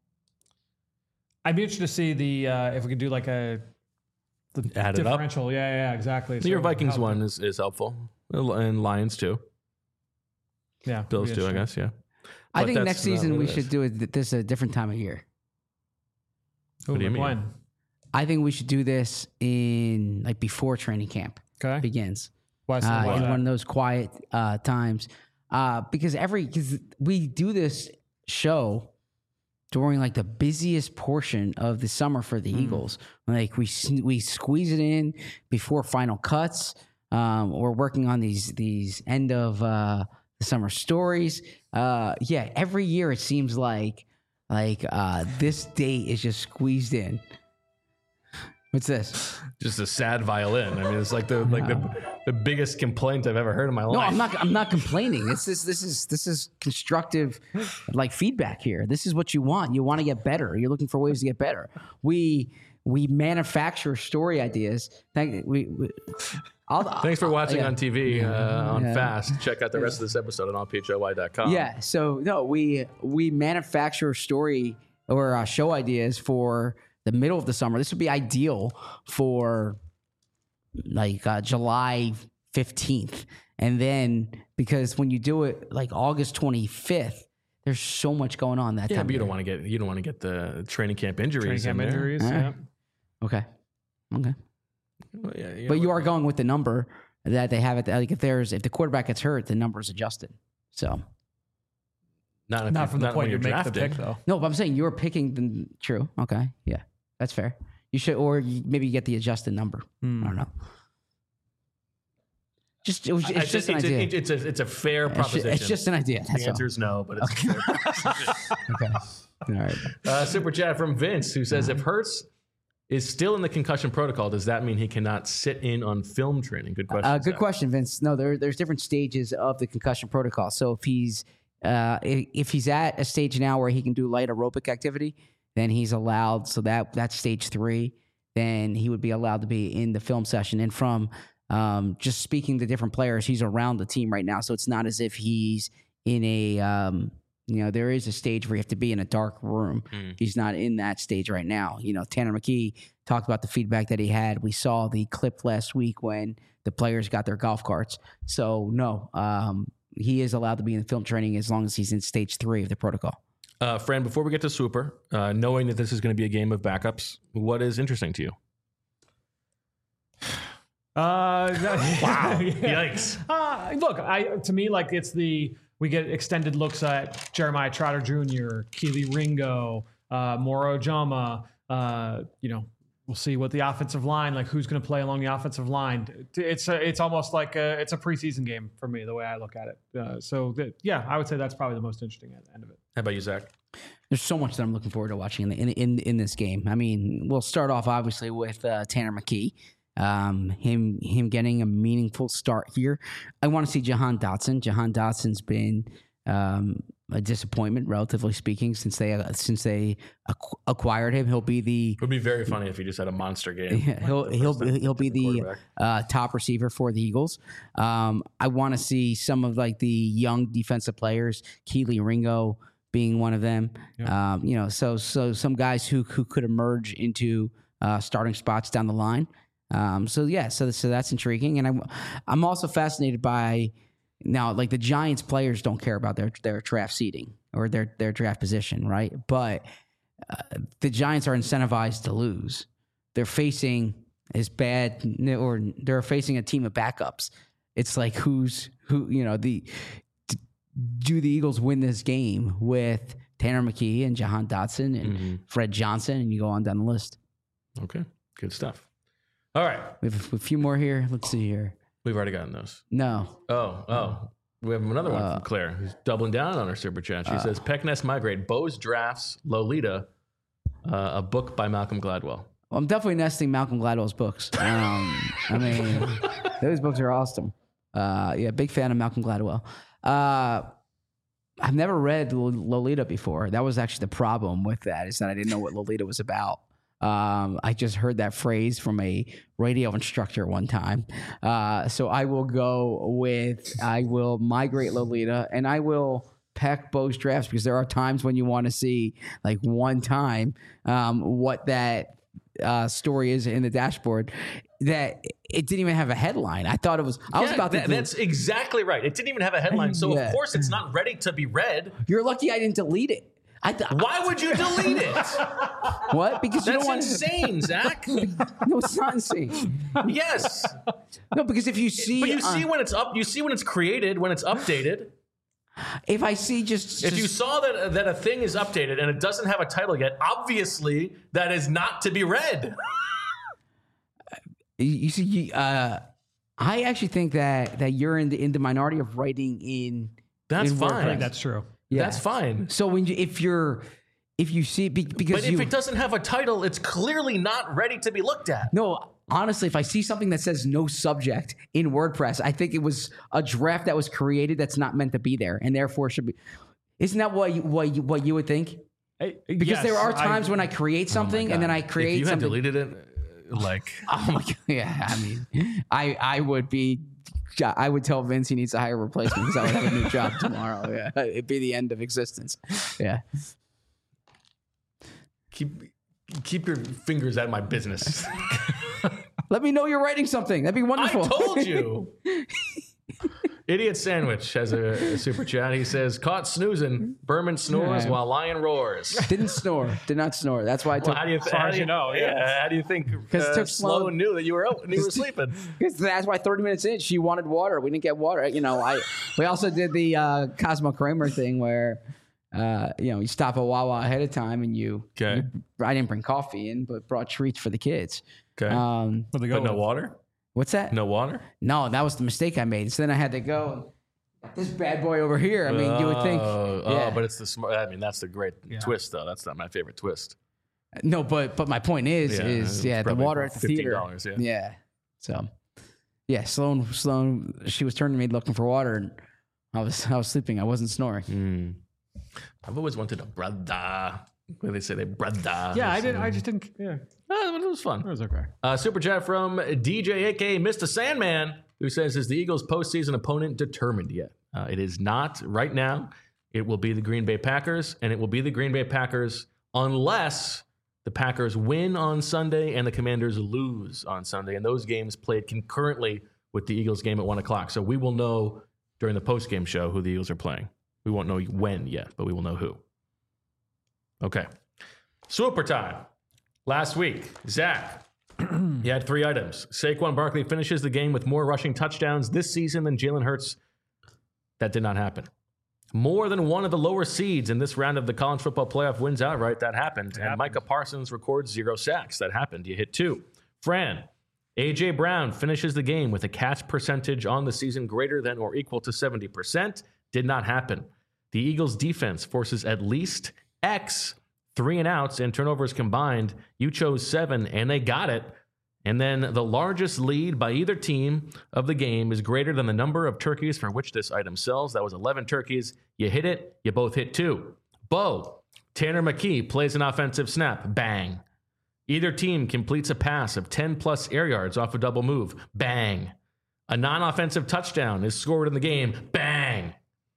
I'd be interested to see the uh, if we could do like a the Add it up. differential. Yeah, yeah, yeah, exactly. Your So Vikings how- one is, is helpful. And Lions too. Yeah, Bills yeah, too, I sure. guess, yeah. I But think that's next not season what we it should is. do it this a different time of year. Ooh, What do you like mean? when? I think we should do this in like before training camp Okay. begins. Why so- uh, why in that? one of those quiet uh, times, uh, because every because we do this show during like the busiest portion of the summer for the Eagles. Like we s- we squeeze it in before final cuts. Um, we're working on these these end of uh, the summer stories. Uh, yeah, every year it seems like like uh, this date is just squeezed in. What's this? Just a sad violin. I mean, it's like the like the, the biggest complaint I've ever heard in my life. No, I'm not. I'm not complaining. This is this is this is constructive, like feedback here. This is what you want. You want to get better. You're looking for ways to get better. We we manufacture story ideas. Thank we. we I'll, Thanks for watching yeah. on T V uh, on Yeah. Fast. Check out the rest of this episode on all p h o y dot com. Yeah. So no, we we manufacture story or uh, show ideas for the middle of the summer. This would be ideal for like uh, July fifteenth. And then because when you do it like August twenty-fifth, there's so much going on that Yeah, time. but you don't want to get you don't want to get the training camp injuries. Training camp in there. injuries. All right. Yeah. Okay. Okay. Well, yeah, you But know, you are going with the number that they have it. Like if there's if the quarterback gets hurt, the number is adjusted. So not, if Not you- from the not point when you you're make the drafting. pick, though. no, but I'm saying you're picking the true. Okay. Yeah. That's fair. You should or you, maybe you get the adjusted number. Hmm. I don't know. Just it was, it's I- just an it's, idea. a, it's a it's a fair It's ju- proposition. It's just an idea. That's the answer is no, but it's a fair proposition. all. Okay. All right. Uh, super chat from Vince who says, Uh-huh. if Hurts is still in the concussion protocol, does that mean he cannot sit in on film training? Good question. Uh, good Zach. question, Vince. No, there, there's different stages of the concussion protocol. So if he's uh, if, if he's at a stage now where he can do light aerobic activity, then he's allowed. So that that's stage three. Then he would be allowed to be in the film session. And from um, just speaking to different players, he's around the team right now. So it's not as if he's in a um, you know there is a stage where you have to be in a dark room. Mm. He's not in that stage right now. You know, Tanner McKee talked about the feedback that he had. We saw the clip last week when the players got their golf carts. So no, um, he is allowed to be in film training as long as he's in stage three of the protocol. Uh, Fran, before we get to Super, uh, knowing that this is going to be a game of backups, what is interesting to you? Uh, Wow. yeah. Yikes. Uh, look, I to me like it's the we get extended looks at Jeremiah Trotter Junior, Keely Ringo, uh, Moro Jama. Uh, you know, we'll see what the offensive line like. Who's going to play along the offensive line? It's a, it's almost like a, it's a preseason game for me the way I look at it. Uh, so that, yeah, I would say that's probably the most interesting at the end of it. How about you, Zach? There's so much that I'm looking forward to watching in in in, in this game. I mean, we'll start off obviously with uh, Tanner McKee. Um, him him getting a meaningful start here. I want to see Jahan Dotson. Jahan Dotson's been um, a disappointment, relatively speaking, since they uh, since they acqu- acquired him. He'll be the It would be very funny if he just had a monster game. yeah, he'll Like the he'll first time he'll be the quarterback. uh, top receiver for the Eagles. Um, I want to see some of like the young defensive players, Keely Ringo being one of them. Yeah. Um, you know, so so some guys who who could emerge into uh, starting spots down the line. Um, so yeah, so so that's intriguing, and I'm I'm also fascinated by now like the Giants players don't care about their their draft seeding or their their draft position, right? But uh, the Giants are incentivized to lose. They're facing as bad, or they're facing a team of backups. It's like who's who, you know, the do the Eagles win this game with Tanner McKee and Jahan Dotson and Mhm. Fred Johnson, and you go on down the list. Okay, good stuff. All right, We have a few more here. Let's see here. we've already gotten those. No. Oh, oh. We have another one Uh, from Claire who's doubling down on her super chat. She says, Peckness Migrate, Bo's Drafts, Lolita, uh, a book by Malcolm Gladwell. Well, I'm definitely nesting Malcolm Gladwell's books. Um, I mean, those books are awesome. Uh, yeah, big fan of Malcolm Gladwell. Uh, I've never read Lo- Lolita before. That was actually the problem with that, is that I didn't know what Lolita was about. Um, I just heard that phrase from a radio instructor one time. Uh, so I will go with, I will migrate Lolita, and I will peck Bo's Drafts, because there are times when you want to see, like one time, um, what that uh, story is in the dashboard, that it didn't even have a headline. I thought it was, I was Yeah, about to that- do- that's exactly right. It didn't even have a headline, so Yeah. of course it's not ready to be read. You're lucky I didn't delete it. I th- Why would you delete it? What? Because you That's don't want insane, Zach. No, it's not insane. Yes, No, because if you see, but you uh, see when it's up. You see when it's created, when it's updated. if I see just, If just you saw that that a thing is updated and it doesn't have a title yet, obviously that is not to be read. you, you see, you, uh, I actually think that that you're in the in the minority of writing in. That's in fine. I WordPress. think that's true. Yeah. That's fine. So when you, if you're if you see be- because But you if it doesn't have a title, it's clearly not ready to be looked at. no. Honestly, if I see something that says no subject in WordPress, I think it was a draft that was created that's not meant to be there, and therefore should be. Isn't that what you, what you, what you would think? Because there are times when I create something and then I create If you had something. deleted it, like Oh my god! Yeah, I mean, I I would be, I would tell Vince he needs to hire a replacement because I would have a new job tomorrow. Yeah, it'd be the end of existence. Yeah. keep keep your fingers out of my business. Let me know you're writing something. That'd be wonderful. I told you. Idiot Sandwich has a, a super chat. He says, caught snoozing. Berman snores Yeah. while Lion roars. Didn't snore. Did not snore. That's why I Well, took. how do you, As far how as do you know, yeah. yeah. How do you think Because it uh, took Sloan Sloan- knew that you were out and you were sleeping? Because that's why thirty minutes in, she wanted water. We didn't get water. You know, I. We also did the uh, Cosmo Kramer thing where, uh, you know, you stop at Wawa ahead of time and you. Okay. you- I didn't bring coffee in, but brought treats for the kids. Okay. Um, Where'd they go but no with? water? what's that? No water? No, that was the mistake I made. So then I had to go. This bad boy over here. I mean, you would think. Oh, yeah. oh, but it's the smart. I mean, that's the great twist, though. That's not my favorite twist. No, but but my point is Yeah, is it's yeah, the probably water at the fifteen theater. dollars, yeah. Yeah. So yeah, Sloan Sloan she was turning to me looking for water and I was I was sleeping. I wasn't snoring. Mm. I've always wanted a brother. Where they say they brother. Yeah, I did. I just didn't. Yeah, Oh, it was fun. it was okay. Uh, super chat from D J, aka Mister Sandman, who says, is the Eagles' postseason opponent determined yet? Uh, it is not right now. It will be the Green Bay Packers, and it will be the Green Bay Packers unless the Packers win on Sunday and the Commanders lose on Sunday. And those games played concurrently with the Eagles game at one o'clock. So we will know during the postgame show who the Eagles are playing. We won't know when yet, but we will know who. Okay. Super time. Last week, Zach, he had three items. Saquon Barkley finishes the game with more rushing touchdowns this season than Jalen Hurts. That did not happen. More than one of the lower seeds in this round of the college football playoff wins outright. That happened. And Micah Parsons records zero sacks. That happened. You hit two. Fran, A J Brown finishes the game with a catch percentage on the season greater than or equal to seventy percent. Did not happen. The Eagles defense forces at least X three and outs and turnovers combined. You chose seven, and they got it. And then the largest lead by either team of the game is greater than the number of turkeys for which this item sells. That was eleven turkeys. You hit it. You both hit two. Bo, Tanner McKee plays an offensive snap. Bang. Either team completes a pass of ten plus air yards off a double move. Bang. A non-offensive touchdown is scored in the game. Bang.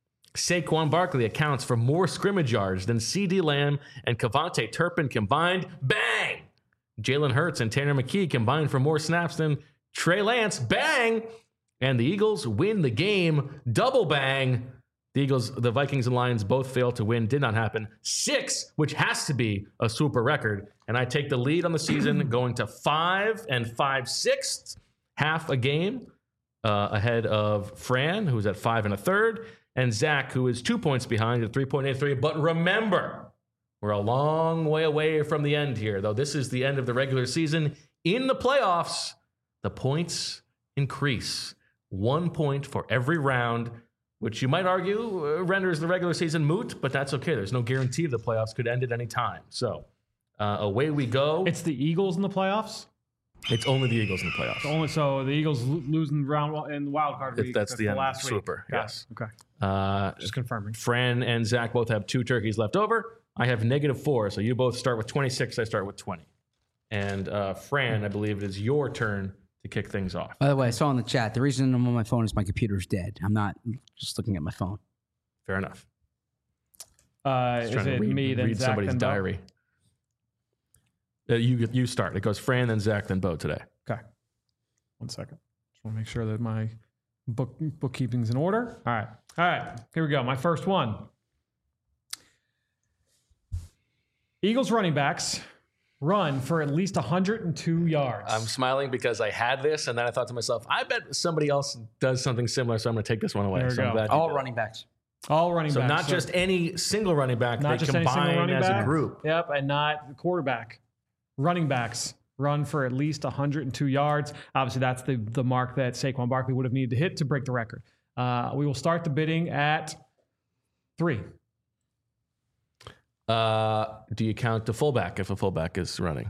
Saquon Barkley accounts for more scrimmage yards than CeeDee Lamb and Kevontae Turpin combined. Bang! Jalen Hurts and Tanner McKee combined for more snaps than Trey Lance. Bang! And the Eagles win the game. Double bang. The Eagles, the Vikings and Lions both failed to win. Did not happen. Six, which has to be a super record. And I take the lead on the season going to five and five sixths, half a game uh, ahead of Fran, who's at five and a third, and Zach, who is two points behind at three point eight three. But remember, we're a long way away from the end here, though. This is the end of the regular season. In the playoffs, the points increase. One point for every round, which you might argue uh, renders the regular season moot, but that's okay. There's no guarantee the playoffs could end at any time. So uh, away we go. It's the Eagles in the playoffs. It's only the Eagles in the playoffs. Only so the Eagles lo- losing round in the wild card If week. that's the end. last week. Super, Got yes. it. Okay. Uh, Just confirming. Fran and Zach both have two turkeys left over. I have negative four, so you both start with twenty-six. I start with twenty. And uh, Fran, I believe it is your turn to kick things off. By the way, I saw in the chat the reason I'm on my phone is my computer's dead. I'm not just looking at my phone. Fair enough. Uh, Just is trying to it read, me then read Zach somebody's then Bo? diary. Uh, you you start. It goes Fran, then Zach, then Bo today. Okay. One second. Just want to make sure that my book bookkeeping's in order. All right. All right. Here we go. My first one. Eagles running backs run for at least one hundred two yards. I'm smiling because I had this, and then I thought to myself, I bet somebody else does something similar, so I'm going to take this one away. There we so I'm go. glad you All did. running backs. All running So backs. not just any single running back, not they just any single combine running as back. a group. Yep, and not the quarterback. Running backs run for at least one hundred two yards. Obviously, that's the, the mark that Saquon Barkley would have needed to hit to break the record. Uh, we will start the bidding at three. Uh, do you count the fullback if a fullback is running?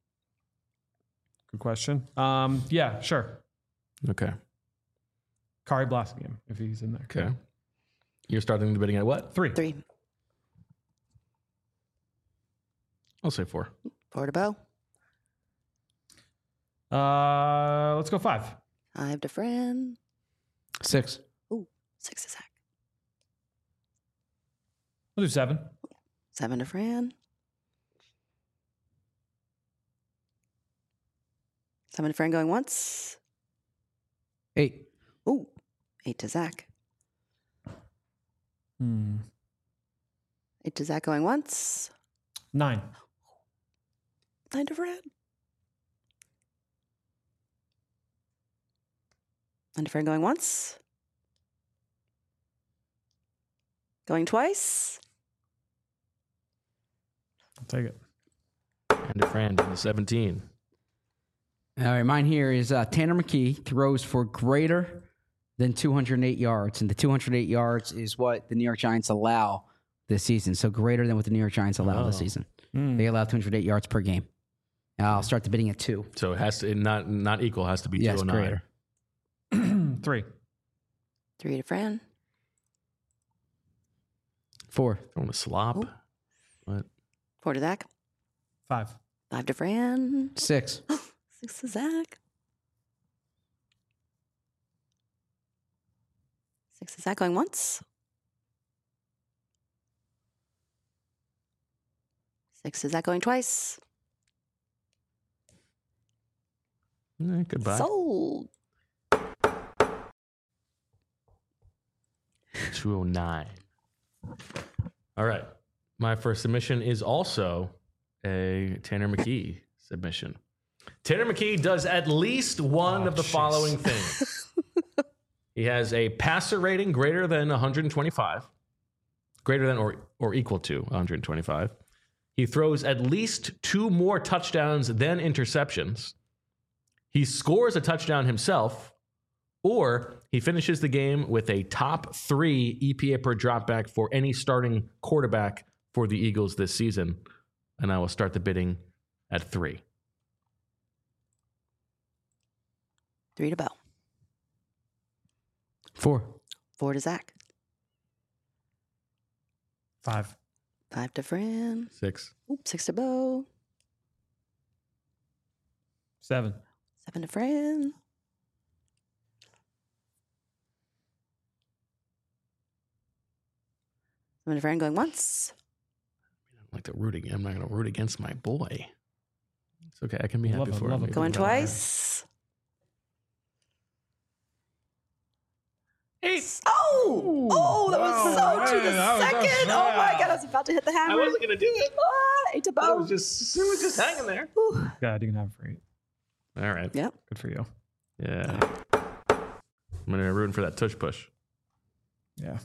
Good question. Um, yeah, sure. Okay. Kari Blasingame, if he's in there. Okay. You're starting the bidding at what? Three. Three. I'll say four. Four to Bo. Uh, let's go five. Five to Fran. Six. Ooh, six to Zach. We'll do seven. Seven to Fran. Seven to Fran going once. Eight. Ooh, eight to Zach. Hmm. Eight to Zach going once. Nine. Nine to Fran. Nine to Fran going once. Going twice. I'll take it. And to Fran down to seventeen. All right, mine here is uh, Tanner McKee throws for greater than two hundred eight yards. And the two hundred eight yards is what the New York Giants allow this season. So greater than what the New York Giants allow Oh. this season. Mm. They allow two hundred eight yards per game. I'll start the bidding at two. So it has to not not equal. It has to be Yes, two oh nine. greater. Three. Three to Fran. Four. Throwing a slop. Oh. What? Four to Zach. Five. Five to Fran. Six. Six to Zach. Six to Zach going once. Six to Zach going twice. Eh, goodbye. Sold. two oh nine. All right. My first submission is also a Tanner McKee submission. Tanner McKee does at least one Oh, of the jeez. following things. He has a passer rating greater than one hundred twenty-five, greater than or, or equal to one hundred twenty-five. He throws at least two more touchdowns than interceptions. He scores a touchdown himself, or he finishes the game with a top three E P A per dropback for any starting quarterback for the Eagles this season. And I will start the bidding at three. Three to Bo. Four. Four to Zach. Five. Five to Fran. Six. Oop, six to Bo. Seven. Seven to Fran. Seven to Fran going once. I don't like to root again. I'm not going to root against my boy. It's okay. I can be Love happy it, for love him. it. Going Good job, man. twice. Eight. Oh! Oh, that was Wow, so to man, the that was- that was- second. Oh my yeah. God, I was about to hit the hammer. I wasn't going to do it. Ah, eight to It Bo. was just, it was just hanging there. Whew. God, you can have it for eight. All right. Yep. Good for you. Yeah. I'm going to root for that tush push. Yeah.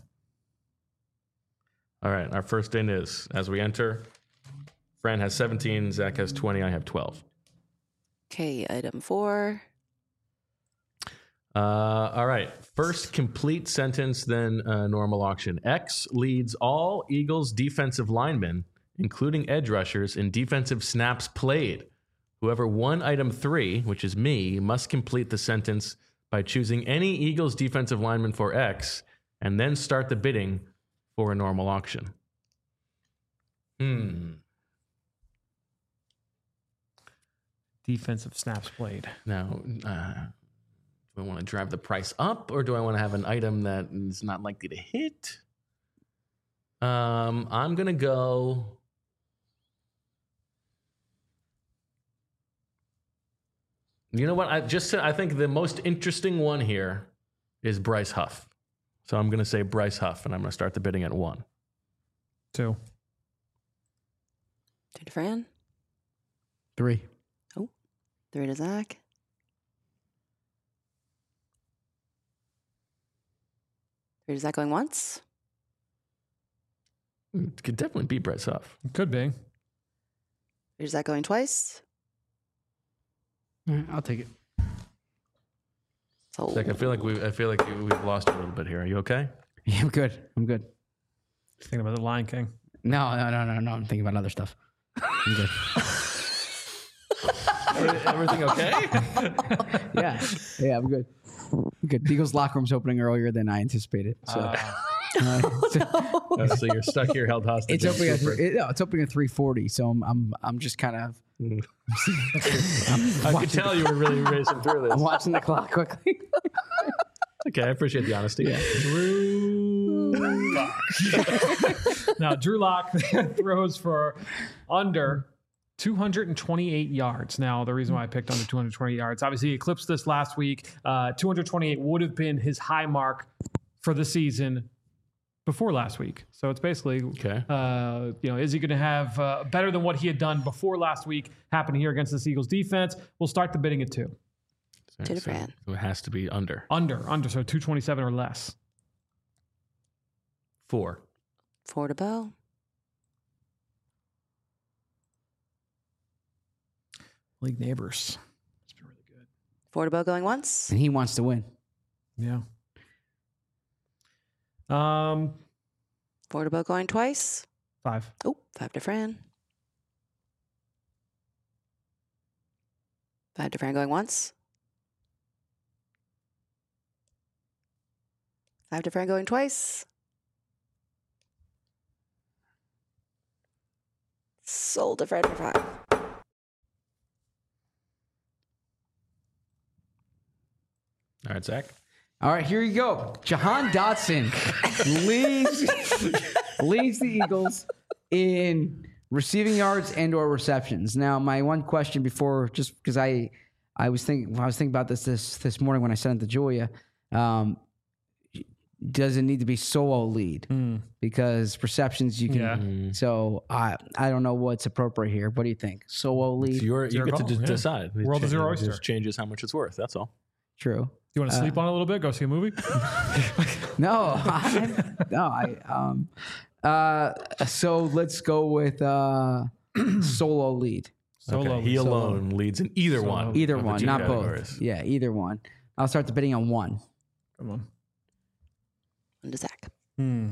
All right. Our first in is, as we enter, Fran has seventeen, Zach has twenty, I have twelve. Okay, item four. Uh, all right. First complete sentence, then uh, normal auction. X leads all Eagles defensive linemen, including edge rushers, in defensive snaps played. Whoever won item three, which is me, must complete the sentence by choosing any Eagles defensive lineman for X and then start the bidding for a normal auction. Hmm. Defensive snaps played. Now, uh, do I want to drive the price up, or do I want to have an item that is not likely to hit? Um, I'm gonna go. You know what? I just said I think the most interesting one here is Bryce Huff. So I'm gonna say Bryce Huff, and I'm gonna start the bidding at one. Two. Two to Fran. Three. Three to Zach. Three to Zach going once. It could definitely be Bryce Huff. It could be. Three to Zach going twice. All right, I'll take it. So Zach, I feel like we I feel like we've lost you a little bit here. Are you okay? Yeah, I'm good. I'm good. Thinking about the Lion King. No, no, no, no, no. I'm thinking about other stuff. I'm good. Everything okay? Yeah. Yeah, I'm good. I'm good. The Eagles locker room's opening earlier than I anticipated. So, Uh, uh, so Oh, so you're stuck here, held hostage. it's opening at Super. three, it, no, it's opening at three forty. So I'm I'm I'm just kind of I could tell you were really racing through I'm this. watching the clock quickly. Okay, I appreciate the honesty. Drew Lock. Now, Drew Lock throws for under two hundred twenty-eight yards. Now, the reason why I picked under two hundred twenty yards, obviously he eclipsed this last week. Uh, two hundred twenty-eight would have been his high mark for the season before last week. So it's basically, Okay. uh, you know, is he going to have uh, better than what he had done before last week happen here against this Eagles defense? We'll start the bidding at two. Two to So Fran. it has to be under. Under, under, so two twenty-seven or less. Four. Four to Bo. League neighbors. It's been really good. Four to Bo going once. And he wants to win. Yeah. Um, Four to Bo going twice. five. Oh, five to Fran. Five to Fran going once. Five to Fran going twice. Sold to Fran for five. All right, Zach. All right, here you go. Jahan Dotson leads leads the Eagles in receiving yards and or receptions. Now, my one question before, just because I I was thinking I was thinking about this this this morning when I sent it to Julia. Um, does it need to be solo lead? Mm. Because receptions you can. Yeah. Mm. So I I don't know what's appropriate here. What do you think? Solo lead? It's your, It's you your get to call, d- yeah. decide. It World is cha- your it oyster. just changes how much it's worth. That's all. True. You want to sleep on it a little bit? Go see a movie? No, I, no, I um, uh, so let's go with uh, solo lead. Solo. Okay, He solo. alone leads in either Solo. one. Either of the one, two not categories. both. Yeah, either one. I'll start the bidding on one. Come on. One to Zach. Hmm.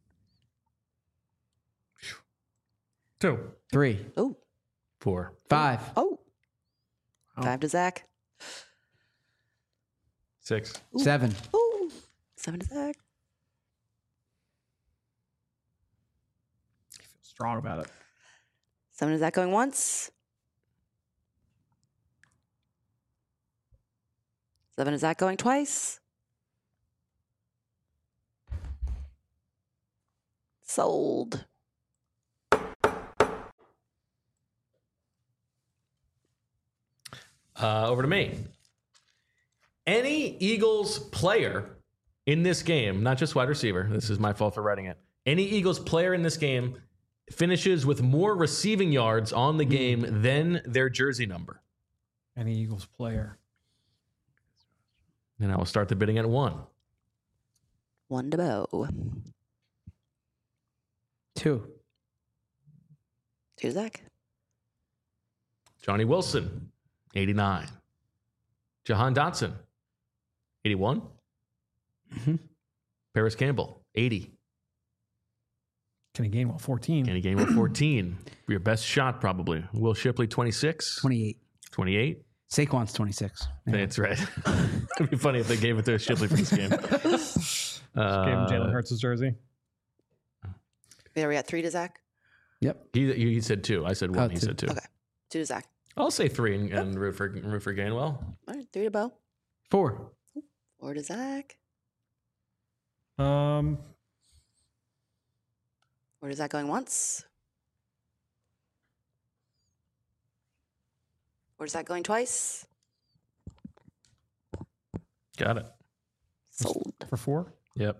Two. Three, Oh, Four. five, oh. Oh. Five to Zach. Six. Ooh. seven, Ooh. Seven to Zach. I feel strong about it. Seven to Zach going once. Seven to Zach going twice. Sold. Uh, over to me. Any Eagles player in this game, not just wide receiver, this is my fault for writing it. Any Eagles player in this game finishes with more receiving yards on the game than their jersey number. Any Eagles player. And I will start the bidding at one. One to Bo. two, Two to Zach. Johnny Wilson, eighty-nine. Jahan Dotson, eighty-one. Mhm. Paris Campbell, eighty. Kenny Gainwell, fourteen. Kenny Gainwell, fourteen. Your best shot, probably. Will Shipley, twenty-six. twenty-eight. twenty-eight. Saquon's twenty-six. Yeah. That's right. It'd be funny if they gave it to Shipley for this game. Uh, Gave him Jalen Hurts' jersey. There we at three to Zach. Yep. He, he said two. I said one. Oh, he two. said two. Okay. Two to Zach. I'll say three and, and root for root for Gainwell. All right. Three to Bo. Four, Four to Zach. Um, Four to Zach going once. Four to Zach going twice. Got it. Sold. for four. Yep.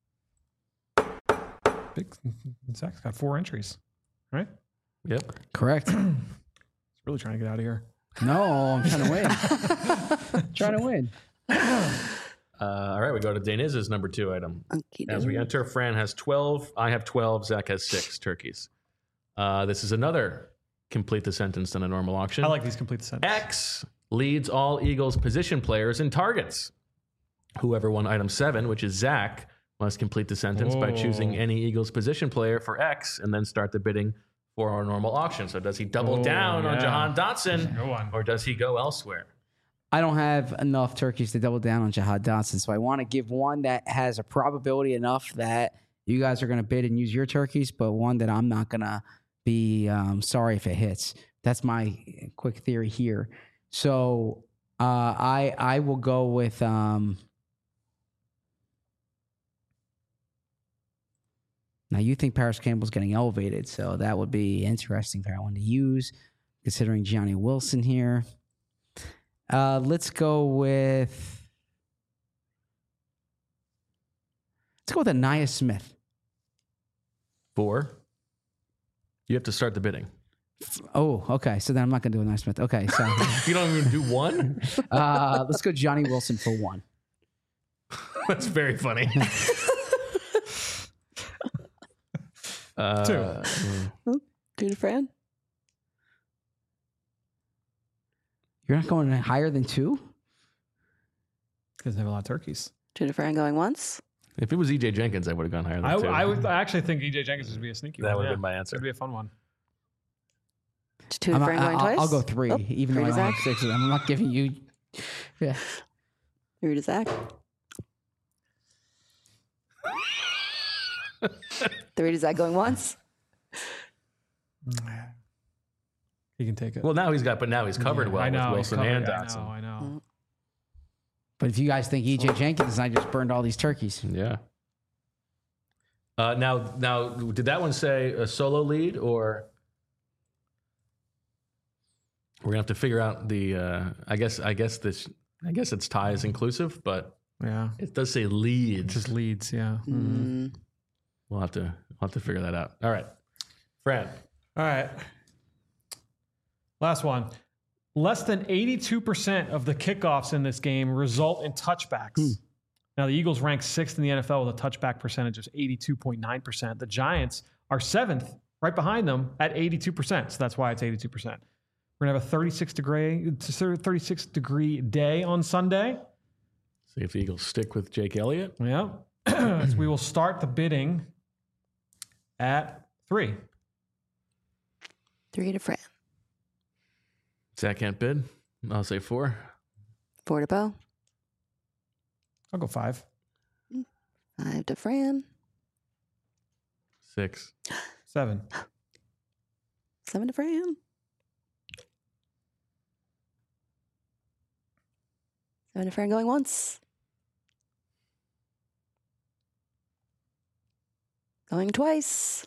Big. Zach's got four entries, right? Yep. correct. He's really trying to get out of here. No, I'm trying to win. trying to win. Uh, all right, we go to Deniz's number two item. Okie As we doke. enter, Fran has twelve. I have twelve. Zach has six turkeys. Uh, this is another complete the sentence than a normal auction. I like these complete sentence. X leads all Eagles position players in targets. Whoever won item seven, which is Zach, must complete the sentence by choosing Oh. any Eagles position player for X and then start the bidding for our normal auction. So does he double Oh, down on yeah. Jahan Dotson Go on. or does he go elsewhere? I don't have enough turkeys to double down on Jahan Dotson, so I want to give one that has a probability enough that you guys are going to bid and use your turkeys, but one that I'm not going to be um, sorry if it hits. That's my quick theory here. So uh, I I will go with. Um, now you think Paris Campbell's getting elevated, so that would be interesting for that one to use. considering Gianni Wilson here. Uh, let's go with let's go with Anaya Smith. Four. You have to start the bidding. Oh, okay. So then I'm not going to do Anaya Smith. Okay, so You don't even do one? uh, let's go Johnny Wilson for one. That's very funny. uh, Two. Two to Fran. You're not going higher than two? Because they have a lot of turkeys. Two to Fran going once. If it was E J Jenkins, I would have gone higher than I, two. I would I actually think E J Jenkins would be a sneaky That one. would have yeah. been my answer. It'd be a fun one. Two to I'm- Fran I- going I'll, twice. I'll go three, Oh, even though three I to don't have Zach. six of them. I'm not giving you. Yeah. Three to Zach. Three to Zach going once. He can take it. Well, now he's got, but now he's covered Yeah, well I know, with he's Wilson covered. and I Dotson. know, I know. But if you guys think E J Jenkins, I just burned all these turkeys. Yeah. Uh, now, now, did that one say a solo lead, or we're gonna have to figure out the? Uh, I guess, I guess this, I guess it's ties inclusive, but Yeah. it does say leads. It just leads, yeah. Mm. We'll have to, we'll have to figure that out. All right, Fran. All right. Last one. Less than eighty-two percent of the kickoffs in this game result in touchbacks. Now, the Eagles rank sixth in the N F L with a touchback percentage of eighty-two point nine percent. The Giants are seventh, right behind them at eighty-two percent. So that's why it's eighty-two percent. We're going to have a thirty-six degree, thirty-six degree day on Sunday. See if the Eagles stick with Jake Elliott. Yeah. So we will start the bidding at three. Three to Fran. Zach can't bid. I'll say four. Four to Bo. I'll go five. Five to Fran. Six. Seven. Seven to Fran. Seven to Fran going once. Going twice.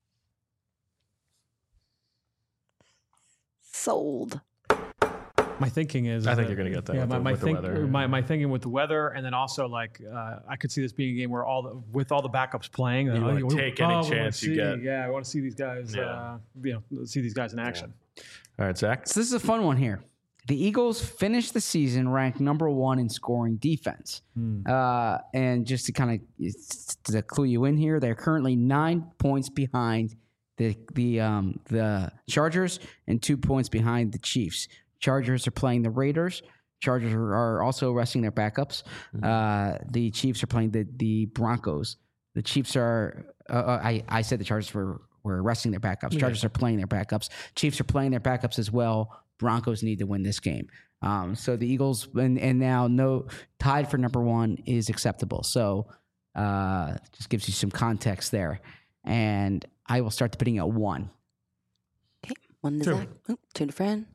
Sold. My thinking is, I think that- you're gonna get that Yeah, with my the- my, with the think, weather. my my thinking with the weather, and then also like uh, I could see this being a game where all the with all the backups playing, You uh, wanna we- take any we wanna chance you see- get. Yeah, I want to see these guys. Yeah. Uh, you know, see these guys in action. All right, Zach. So this is a fun one here. The Eagles finished the season ranked number one in scoring defense. Uh, and just to kind of to clue you in here, they're currently nine points behind the the um, the Chargers and two points behind the Chiefs. Chargers are playing the Raiders. Chargers are, are also resting their backups. Uh, the Chiefs are playing the the Broncos. The Chiefs are. Uh, uh, I I said the Chargers were were resting their backups. Chargers are playing their backups. Chiefs are playing their backups as well. Broncos need to win this game. Um, so the Eagles and, and now no tied for number one is acceptable. So uh, just gives you some context there. And I will start the bidding at one. Okay. One to Two. Zach. Oh, two to Fran.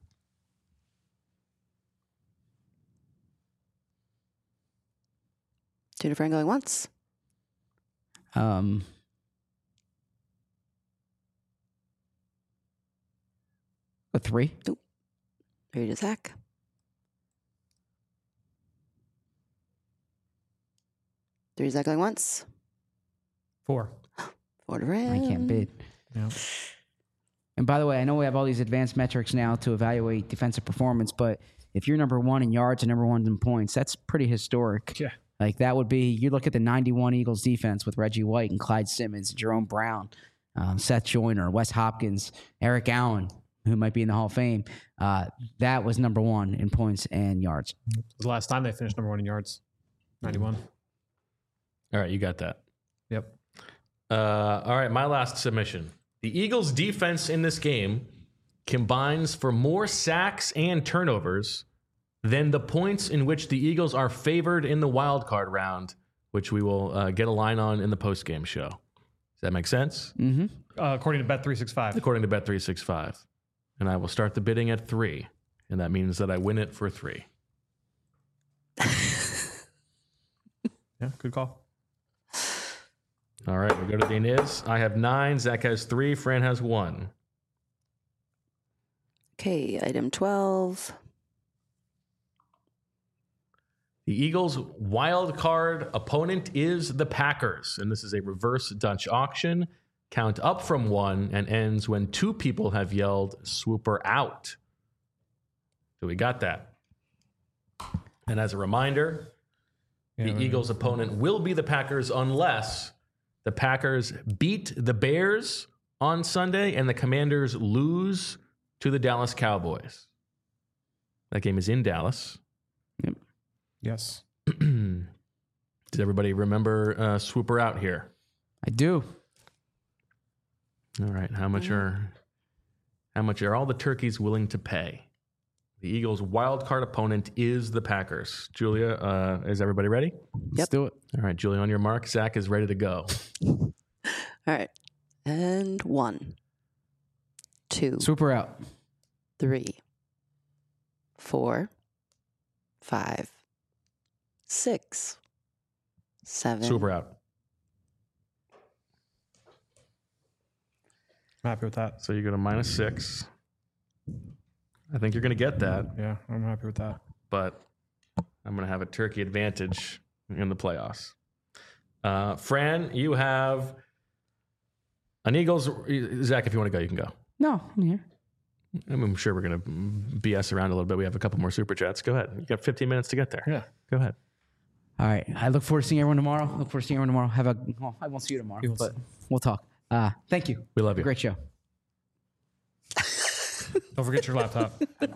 Two to Fran going once. Um, a three. Three to Zach. Three to Zach going once. Four. Four to Fran. I can't bid. Yeah. And by the way, I know we have all these advanced metrics now to evaluate defensive performance, but if you're number one in yards and number one in points, that's pretty historic. Yeah. Like that would be, you look at the ninety-one Eagles defense with Reggie White and Clyde Simmons, Jerome Brown, um, Seth Joyner, Wes Hopkins, Eric Allen, who might be in the Hall of Fame. Uh, that was number one in points and yards. It was the last time they finished number one in yards. ninety-one. All right, you got that. Yep. Uh, all right, my last submission. The Eagles' defense in this game combines for more sacks and turnovers than the points in which the Eagles are favored in the wild card round, which we will uh, get a line on in the post-game show. Does that make sense? Mm-hmm. Uh, according to Bet three sixty-five. According to Bet three sixty-five. And I will start the bidding at three, and that means that I win it for three. Yeah, good call. All right, we go to the Niz. I have nine. Zach has three. Fran has one. Okay, item twelve. The Eagles' wild card opponent is the Packers, and this is a reverse Dutch auction. Count up from one and ends when two people have yelled "Swooper out." So we got that. And as a reminder, Yeah, the right. Eagles' opponent will be the Packers unless the Packers beat the Bears on Sunday and the Commanders lose to the Dallas Cowboys. That game is in Dallas. Yes. Did everybody remember uh, Swooper out here? I do. All right. How much are how much are all the turkeys willing to pay? The Eagles' wild card opponent is the Packers. Julia, uh, is everybody ready? Let's Yep. do it. All right, Julia, on your mark. Zach is ready to go. All right. And one, two, Swooper out. three, four, five, six, seven, Swooper out. I'm happy with that. So you go to minus six. I think you're going to get that, Yeah, I'm happy with that. but I'm going to have a turkey advantage in the playoffs. Uh, Fran, you have an Eagles. Zach, if you want to go, you can go. No, I'm here. I'm sure we're going to B S around a little bit. We have a couple more super chats. Go ahead. You got fifteen minutes to get there. Yeah. Go ahead. All right. I look forward to seeing everyone tomorrow. Look forward to seeing everyone tomorrow. Have a. Well, I won't see you tomorrow, Eagles. but we'll talk. Uh, thank you. We love you. Great show. Don't forget your laptop.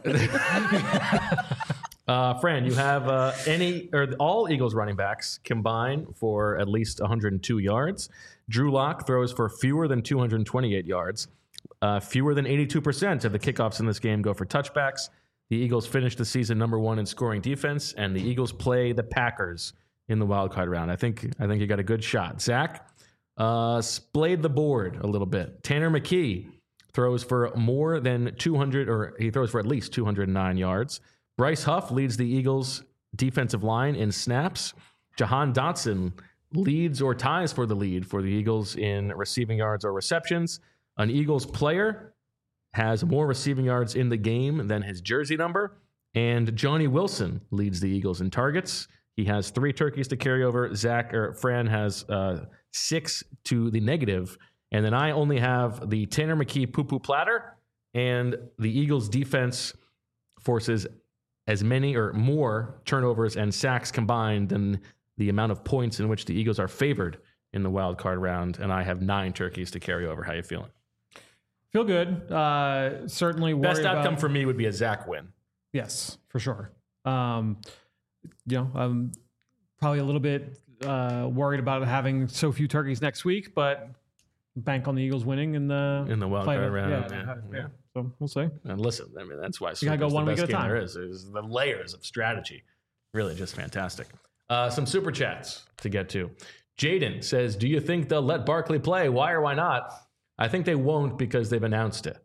Uh, Fran, you have uh, any or all Eagles running backs combine for at least one hundred two yards. Drew Lock throws for fewer than two hundred twenty-eight yards. Uh, fewer than eighty-two percent of the kickoffs in this game go for touchbacks. The Eagles finished the season number one in scoring defense, and the Eagles play the Packers in the wild card round. I think I think you got a good shot. Zach uh, splayed the board a little bit. Tanner McKee throws for more than two hundred, or he throws for at least two hundred nine yards. Bryce Huff leads the Eagles' defensive line in snaps. Jahan Dotson leads or ties for the lead for the Eagles in receiving yards or receptions. An Eagles player has more receiving yards in the game than his jersey number. And Johnny Wilson leads the Eagles in targets. He has three turkeys to carry over. Zach or Fran has uh, six to the negative. And then I only have the Tanner McKee poo-poo platter, and the Eagles defense forces as many or more turnovers and sacks combined than the amount of points in which the Eagles are favored in the wild card round. And I have nine turkeys to carry over. How you feeling? Feel good. Uh, certainly worried Best outcome about, for me would be a Zach win. Yes, for sure. Um, you know, I'm probably a little bit uh, worried about having so few turkeys next week, but bank on the Eagles winning in the In the wild play- card round, Yeah, yeah, yeah. yeah. So we'll see. And listen, I mean, that's why You gotta go Super's one the week best at a game time. there is. Is the layers of strategy. Really just fantastic. Uh, some super chats to get to. Jaden says, do you think they'll let Barkley play? Why or why not? I think they won't because they've announced it.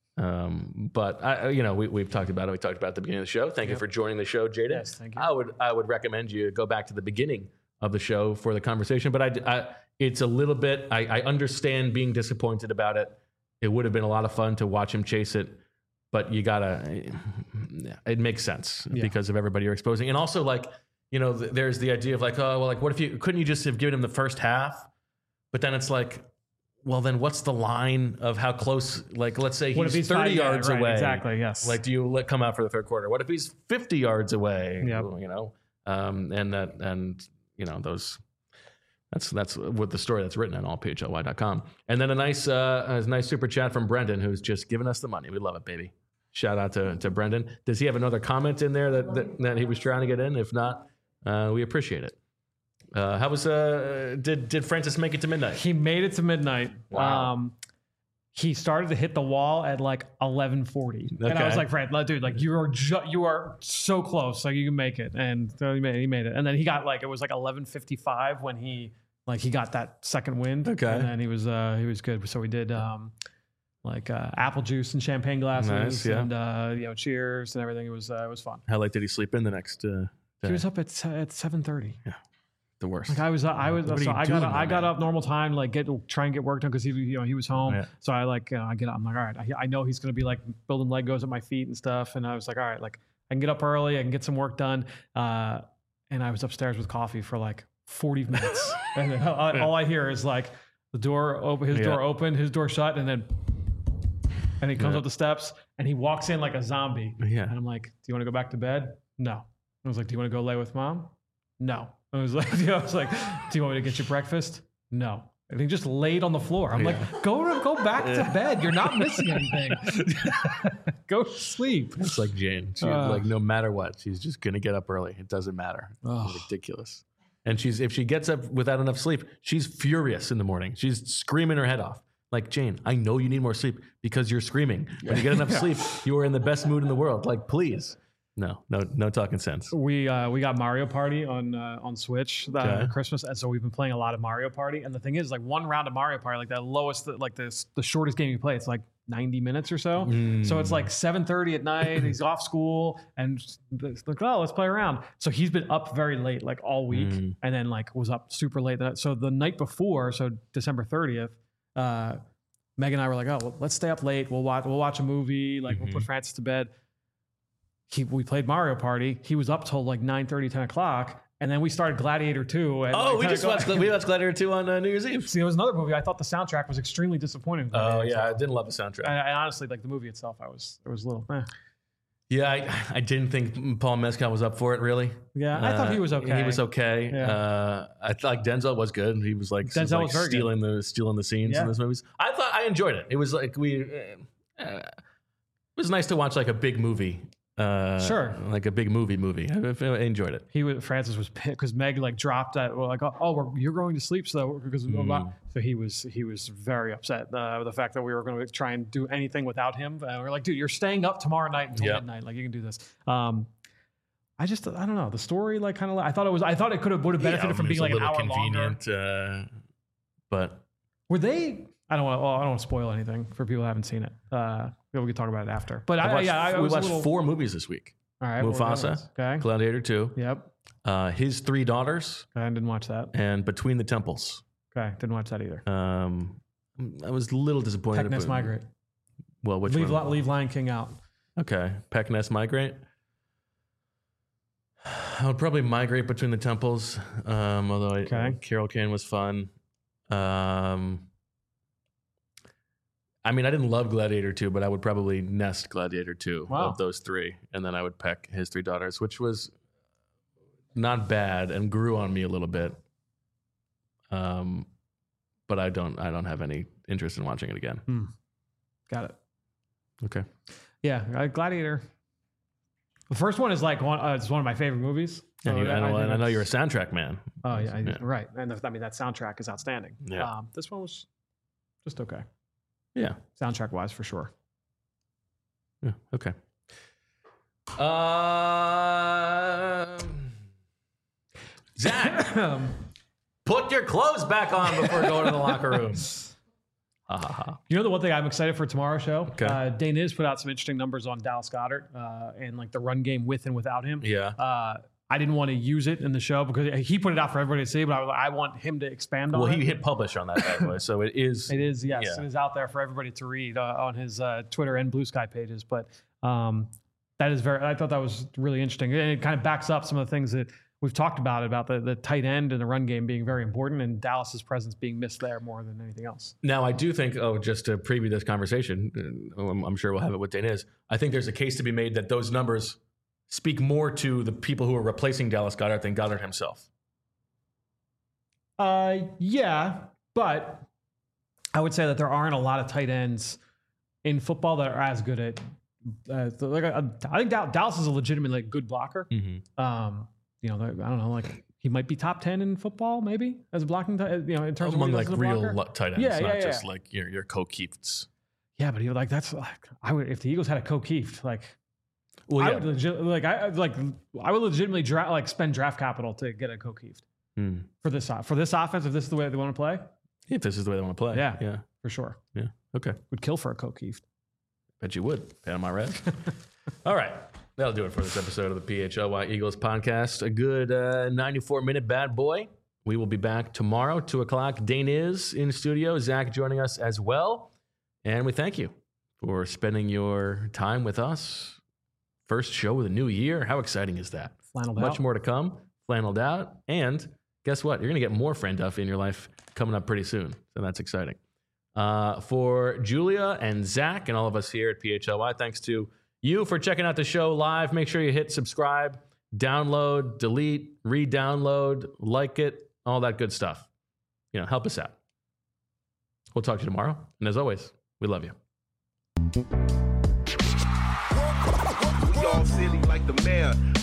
Um, but I, you know, we, we've talked about it. We talked about it at the beginning of the show. Thank you for joining the show, Jaden. Yes, thank you. I would, I would recommend you go back to the beginning of the show for the conversation. But I, I it's a little bit. I, I understand being disappointed about it. It would have been a lot of fun to watch him chase it, but you gotta. It makes sense Yeah. because of everybody you're exposing, and also like you know, th- there's the idea of like, oh, well, like what if you couldn't you just have given him the first half? But then it's like, well, then what's the line of how close? Like, let's say What if he's he's thirty five- yeah, yards right, away. exactly, yes. Like, do you let come out for the third quarter? What if he's fifty yards away? Yep. You know, um, and that and you know those. That's that's what the story that's written on all P H L Y dot com. And then a nice uh, a nice super chat from Brendan, who's just given us the money. We love it, baby. Shout out to, to Brendan. Does he have another comment in there that, that, that he was trying to get in? If not, uh, we appreciate it. Uh, how was uh, did did Francis make it to midnight? He made it to midnight. Wow. Um, he started to hit the wall at like eleven forty, and I was Okay. like, "Fred, like, dude, like you are ju- you are so close, like you can make it." And so he made, he made it, and then he got like it was like eleven fifty-five when he like he got that second wind. Okay. and then he was uh, he was good. So we did um, like uh, apple juice and champagne glasses, Nice, yeah. and uh, you know, cheers and everything. It was uh, it was fun. How late did he sleep in the next uh, day? He was up at at seven thirty. the worst. Like I was, I was, What are so you I doing, got, my I got man? up normal time, like get try and get work done because he, you know, he was home. Yeah. So I like, uh, I get up. I'm like, all right, I, I know he's gonna be like building Legos at my feet and stuff. And I was like, all right, like I can get up early, I can get some work done. Uh, and I was upstairs with coffee for like forty minutes, and then all, all I hear is like the door open, his Yeah. door open, his door shut, and then, and he comes Yeah. up the steps and he walks in like a zombie. Yeah. And I'm like, do you want to go back to bed? No. I was like, do you want to go lay with mom? No. I was like, you know, I was like, do you want me to get you breakfast? No. And he just laid on the floor. I'm Yeah. like, go to, go back to bed. You're not missing anything. Go sleep. It's like Jane. She, Uh. like no matter what, she's just gonna get up early. It doesn't matter. Ugh. It's ridiculous. And she's if she gets up without enough sleep, she's furious in the morning. She's screaming her head off. Like, Jane, I know you need more sleep because you're screaming. When you get enough sleep, you are in the best mood in the world. Like, please. No, no, no talking sense. We uh, we got Mario Party on uh, on Switch uh, Okay. Christmas, and so we've been playing a lot of Mario Party. And the thing is, like one round of Mario Party, like the lowest, like the the shortest game you play, it's like ninety minutes or so. So it's like seven thirty at night. He's off school, and it's like, oh, let's play around. So he's been up very late, like all week, Mm. and then like was up super late. That so the night before, so December thirtieth. Uh, Meg and I were like, oh, well, let's stay up late. We'll watch. We'll watch a movie. Like we'll put Francis to bed. He, we played Mario Party. He was up till like nine thirty, ten o'clock. And then we started Gladiator two. And Oh, like, we kinda just go- watched we watched Gladiator two on uh, New Year's Eve. See, there was another movie. I thought the soundtrack was extremely disappointing. Oh yeah, I didn't love the soundtrack. I, I honestly, like the movie itself, I was, it was a little, eh. Yeah, I, I didn't think Paul Mescal was up for it. Really. Yeah, I thought he was okay. He was okay. Yeah. Uh, I thought like Denzel was good. He was like, Denzel like was very good. stealing the stealing the scenes Yeah. in those movies. I thought I enjoyed it. It was like we. Uh, uh, it was nice to watch like a big movie. Uh, Sure. Like a big movie movie. I, I enjoyed it. He was, Francis was pissed because Meg like dropped that. Well, like, oh, oh we're, you're going to sleep, so because Mm. so he was he was very upset uh, with the fact that we were going to try and do anything without him. Uh, we're like, dude, you're staying up tomorrow night until Yeah. midnight. Like, you can do this. Um, I just I don't know the story. Like, kind of. I thought it was. I thought it could have would have benefited Yeah, from it was being like a an little hour longer. convenient. Uh, but Were they? I don't want. Well, I don't want to spoil anything for people who haven't seen it. Uh, we can talk about it after. But I I, watched, yeah, I we was a watched little, four movies this week. All right, what were those? Mufasa, Okay. Gladiator two, Yep. uh, His Three Daughters, I didn't watch that. and Between the Temples. Okay, didn't watch that either. Um, I was a little disappointed. Peck Nest but- Migrate. Well, which Leave, one? Li- leave Lion King out. Okay, Peck Nest Migrate. I would probably migrate Between the Temples. Um, although I, Okay. Carol Kane was fun. Um, I mean, I didn't love Gladiator two, but I would probably nest Gladiator two Wow. of those three, and then I would peck His Three Daughters, which was not bad and grew on me a little bit. Um, but I don't, I don't have any interest in watching it again. Got it. Okay. Yeah, uh, Gladiator. The first one is like one. Uh, it's one of my favorite movies. And, you, So I, know, think and I know that's- you're a soundtrack man. Oh yeah, I- Yeah. right. And the, I mean that soundtrack is outstanding. Yeah. Um, this one was just okay, Yeah. soundtrack wise for sure. Yeah. Okay. Um, Zach, Um, put your clothes back on before going to the locker room. Ha ha ha. You know the one thing I'm excited for tomorrow's show? Okay. Uh, Dane has put out some interesting numbers on Dallas Goedert uh, and like the run game with and without him. Yeah. Uh, I didn't want to use it in the show because he put it out for everybody to see, but I was like, I want him to expand on Well, it. he hit publish on that bad boy, so it is. It is, yes. Yeah. It is out there for everybody to read uh, on his uh, Twitter and Blue Sky pages. But um, that is very, I thought that was really interesting. And it kind of backs up some of the things that we've talked about, about the, the tight end and the run game being very important and Dallas's presence being missed there more than anything else. Now, I do think, oh, just to preview this conversation, uh, I'm, I'm sure we'll have it with Dane is. I think there's a case to be made that those numbers speak more to the people who are replacing Dallas Goedert than Goddard himself. Uh, yeah, but I would say that there aren't a lot of tight ends in football that are as good at. Uh, the- like I, I think Dal- Dallas is a legitimately like, good blocker. Mm-hmm. Um, you know, I don't know, like he might be top ten in football, maybe as a blocking. T- you know, in terms Among of what like he does as a real blocker. lo- tight ends, Yeah, not yeah, just yeah. like your your Kokeefts. Yeah, but he like that's like I would if the Eagles had a Kokeeft, like Well, I yeah. would legit, like I like I would legitimately draft like spend draft capital to get a Kokeeft Hmm. for this o- for this offense if this is the way they want to play. If this is the way they want to play. Yeah. Yeah. For sure, Yeah. Okay. would kill for a Kokeeft. Bet you would. Panama Red. All right. That'll do it for this episode of the P H L Y Eagles podcast. A good uh, ninety-four minute bad boy. We will be back tomorrow, two o'clock. Dane is in studio. Zach joining us as well. And we thank you for spending your time with us. First show of the new year. How exciting is that? Flanneled Much out. more to come. Flanneled out. And guess what? You're going to get more Friend Duff in your life coming up pretty soon. So that's exciting. Uh, for Julia and Zach and all of us here at P H L Y, thanks to you for checking out the show live. Make sure you hit subscribe, download, delete, re-download, like it, all that good stuff. You know, help us out. We'll talk to you tomorrow. And as always, we love you. We all silly like the mayor.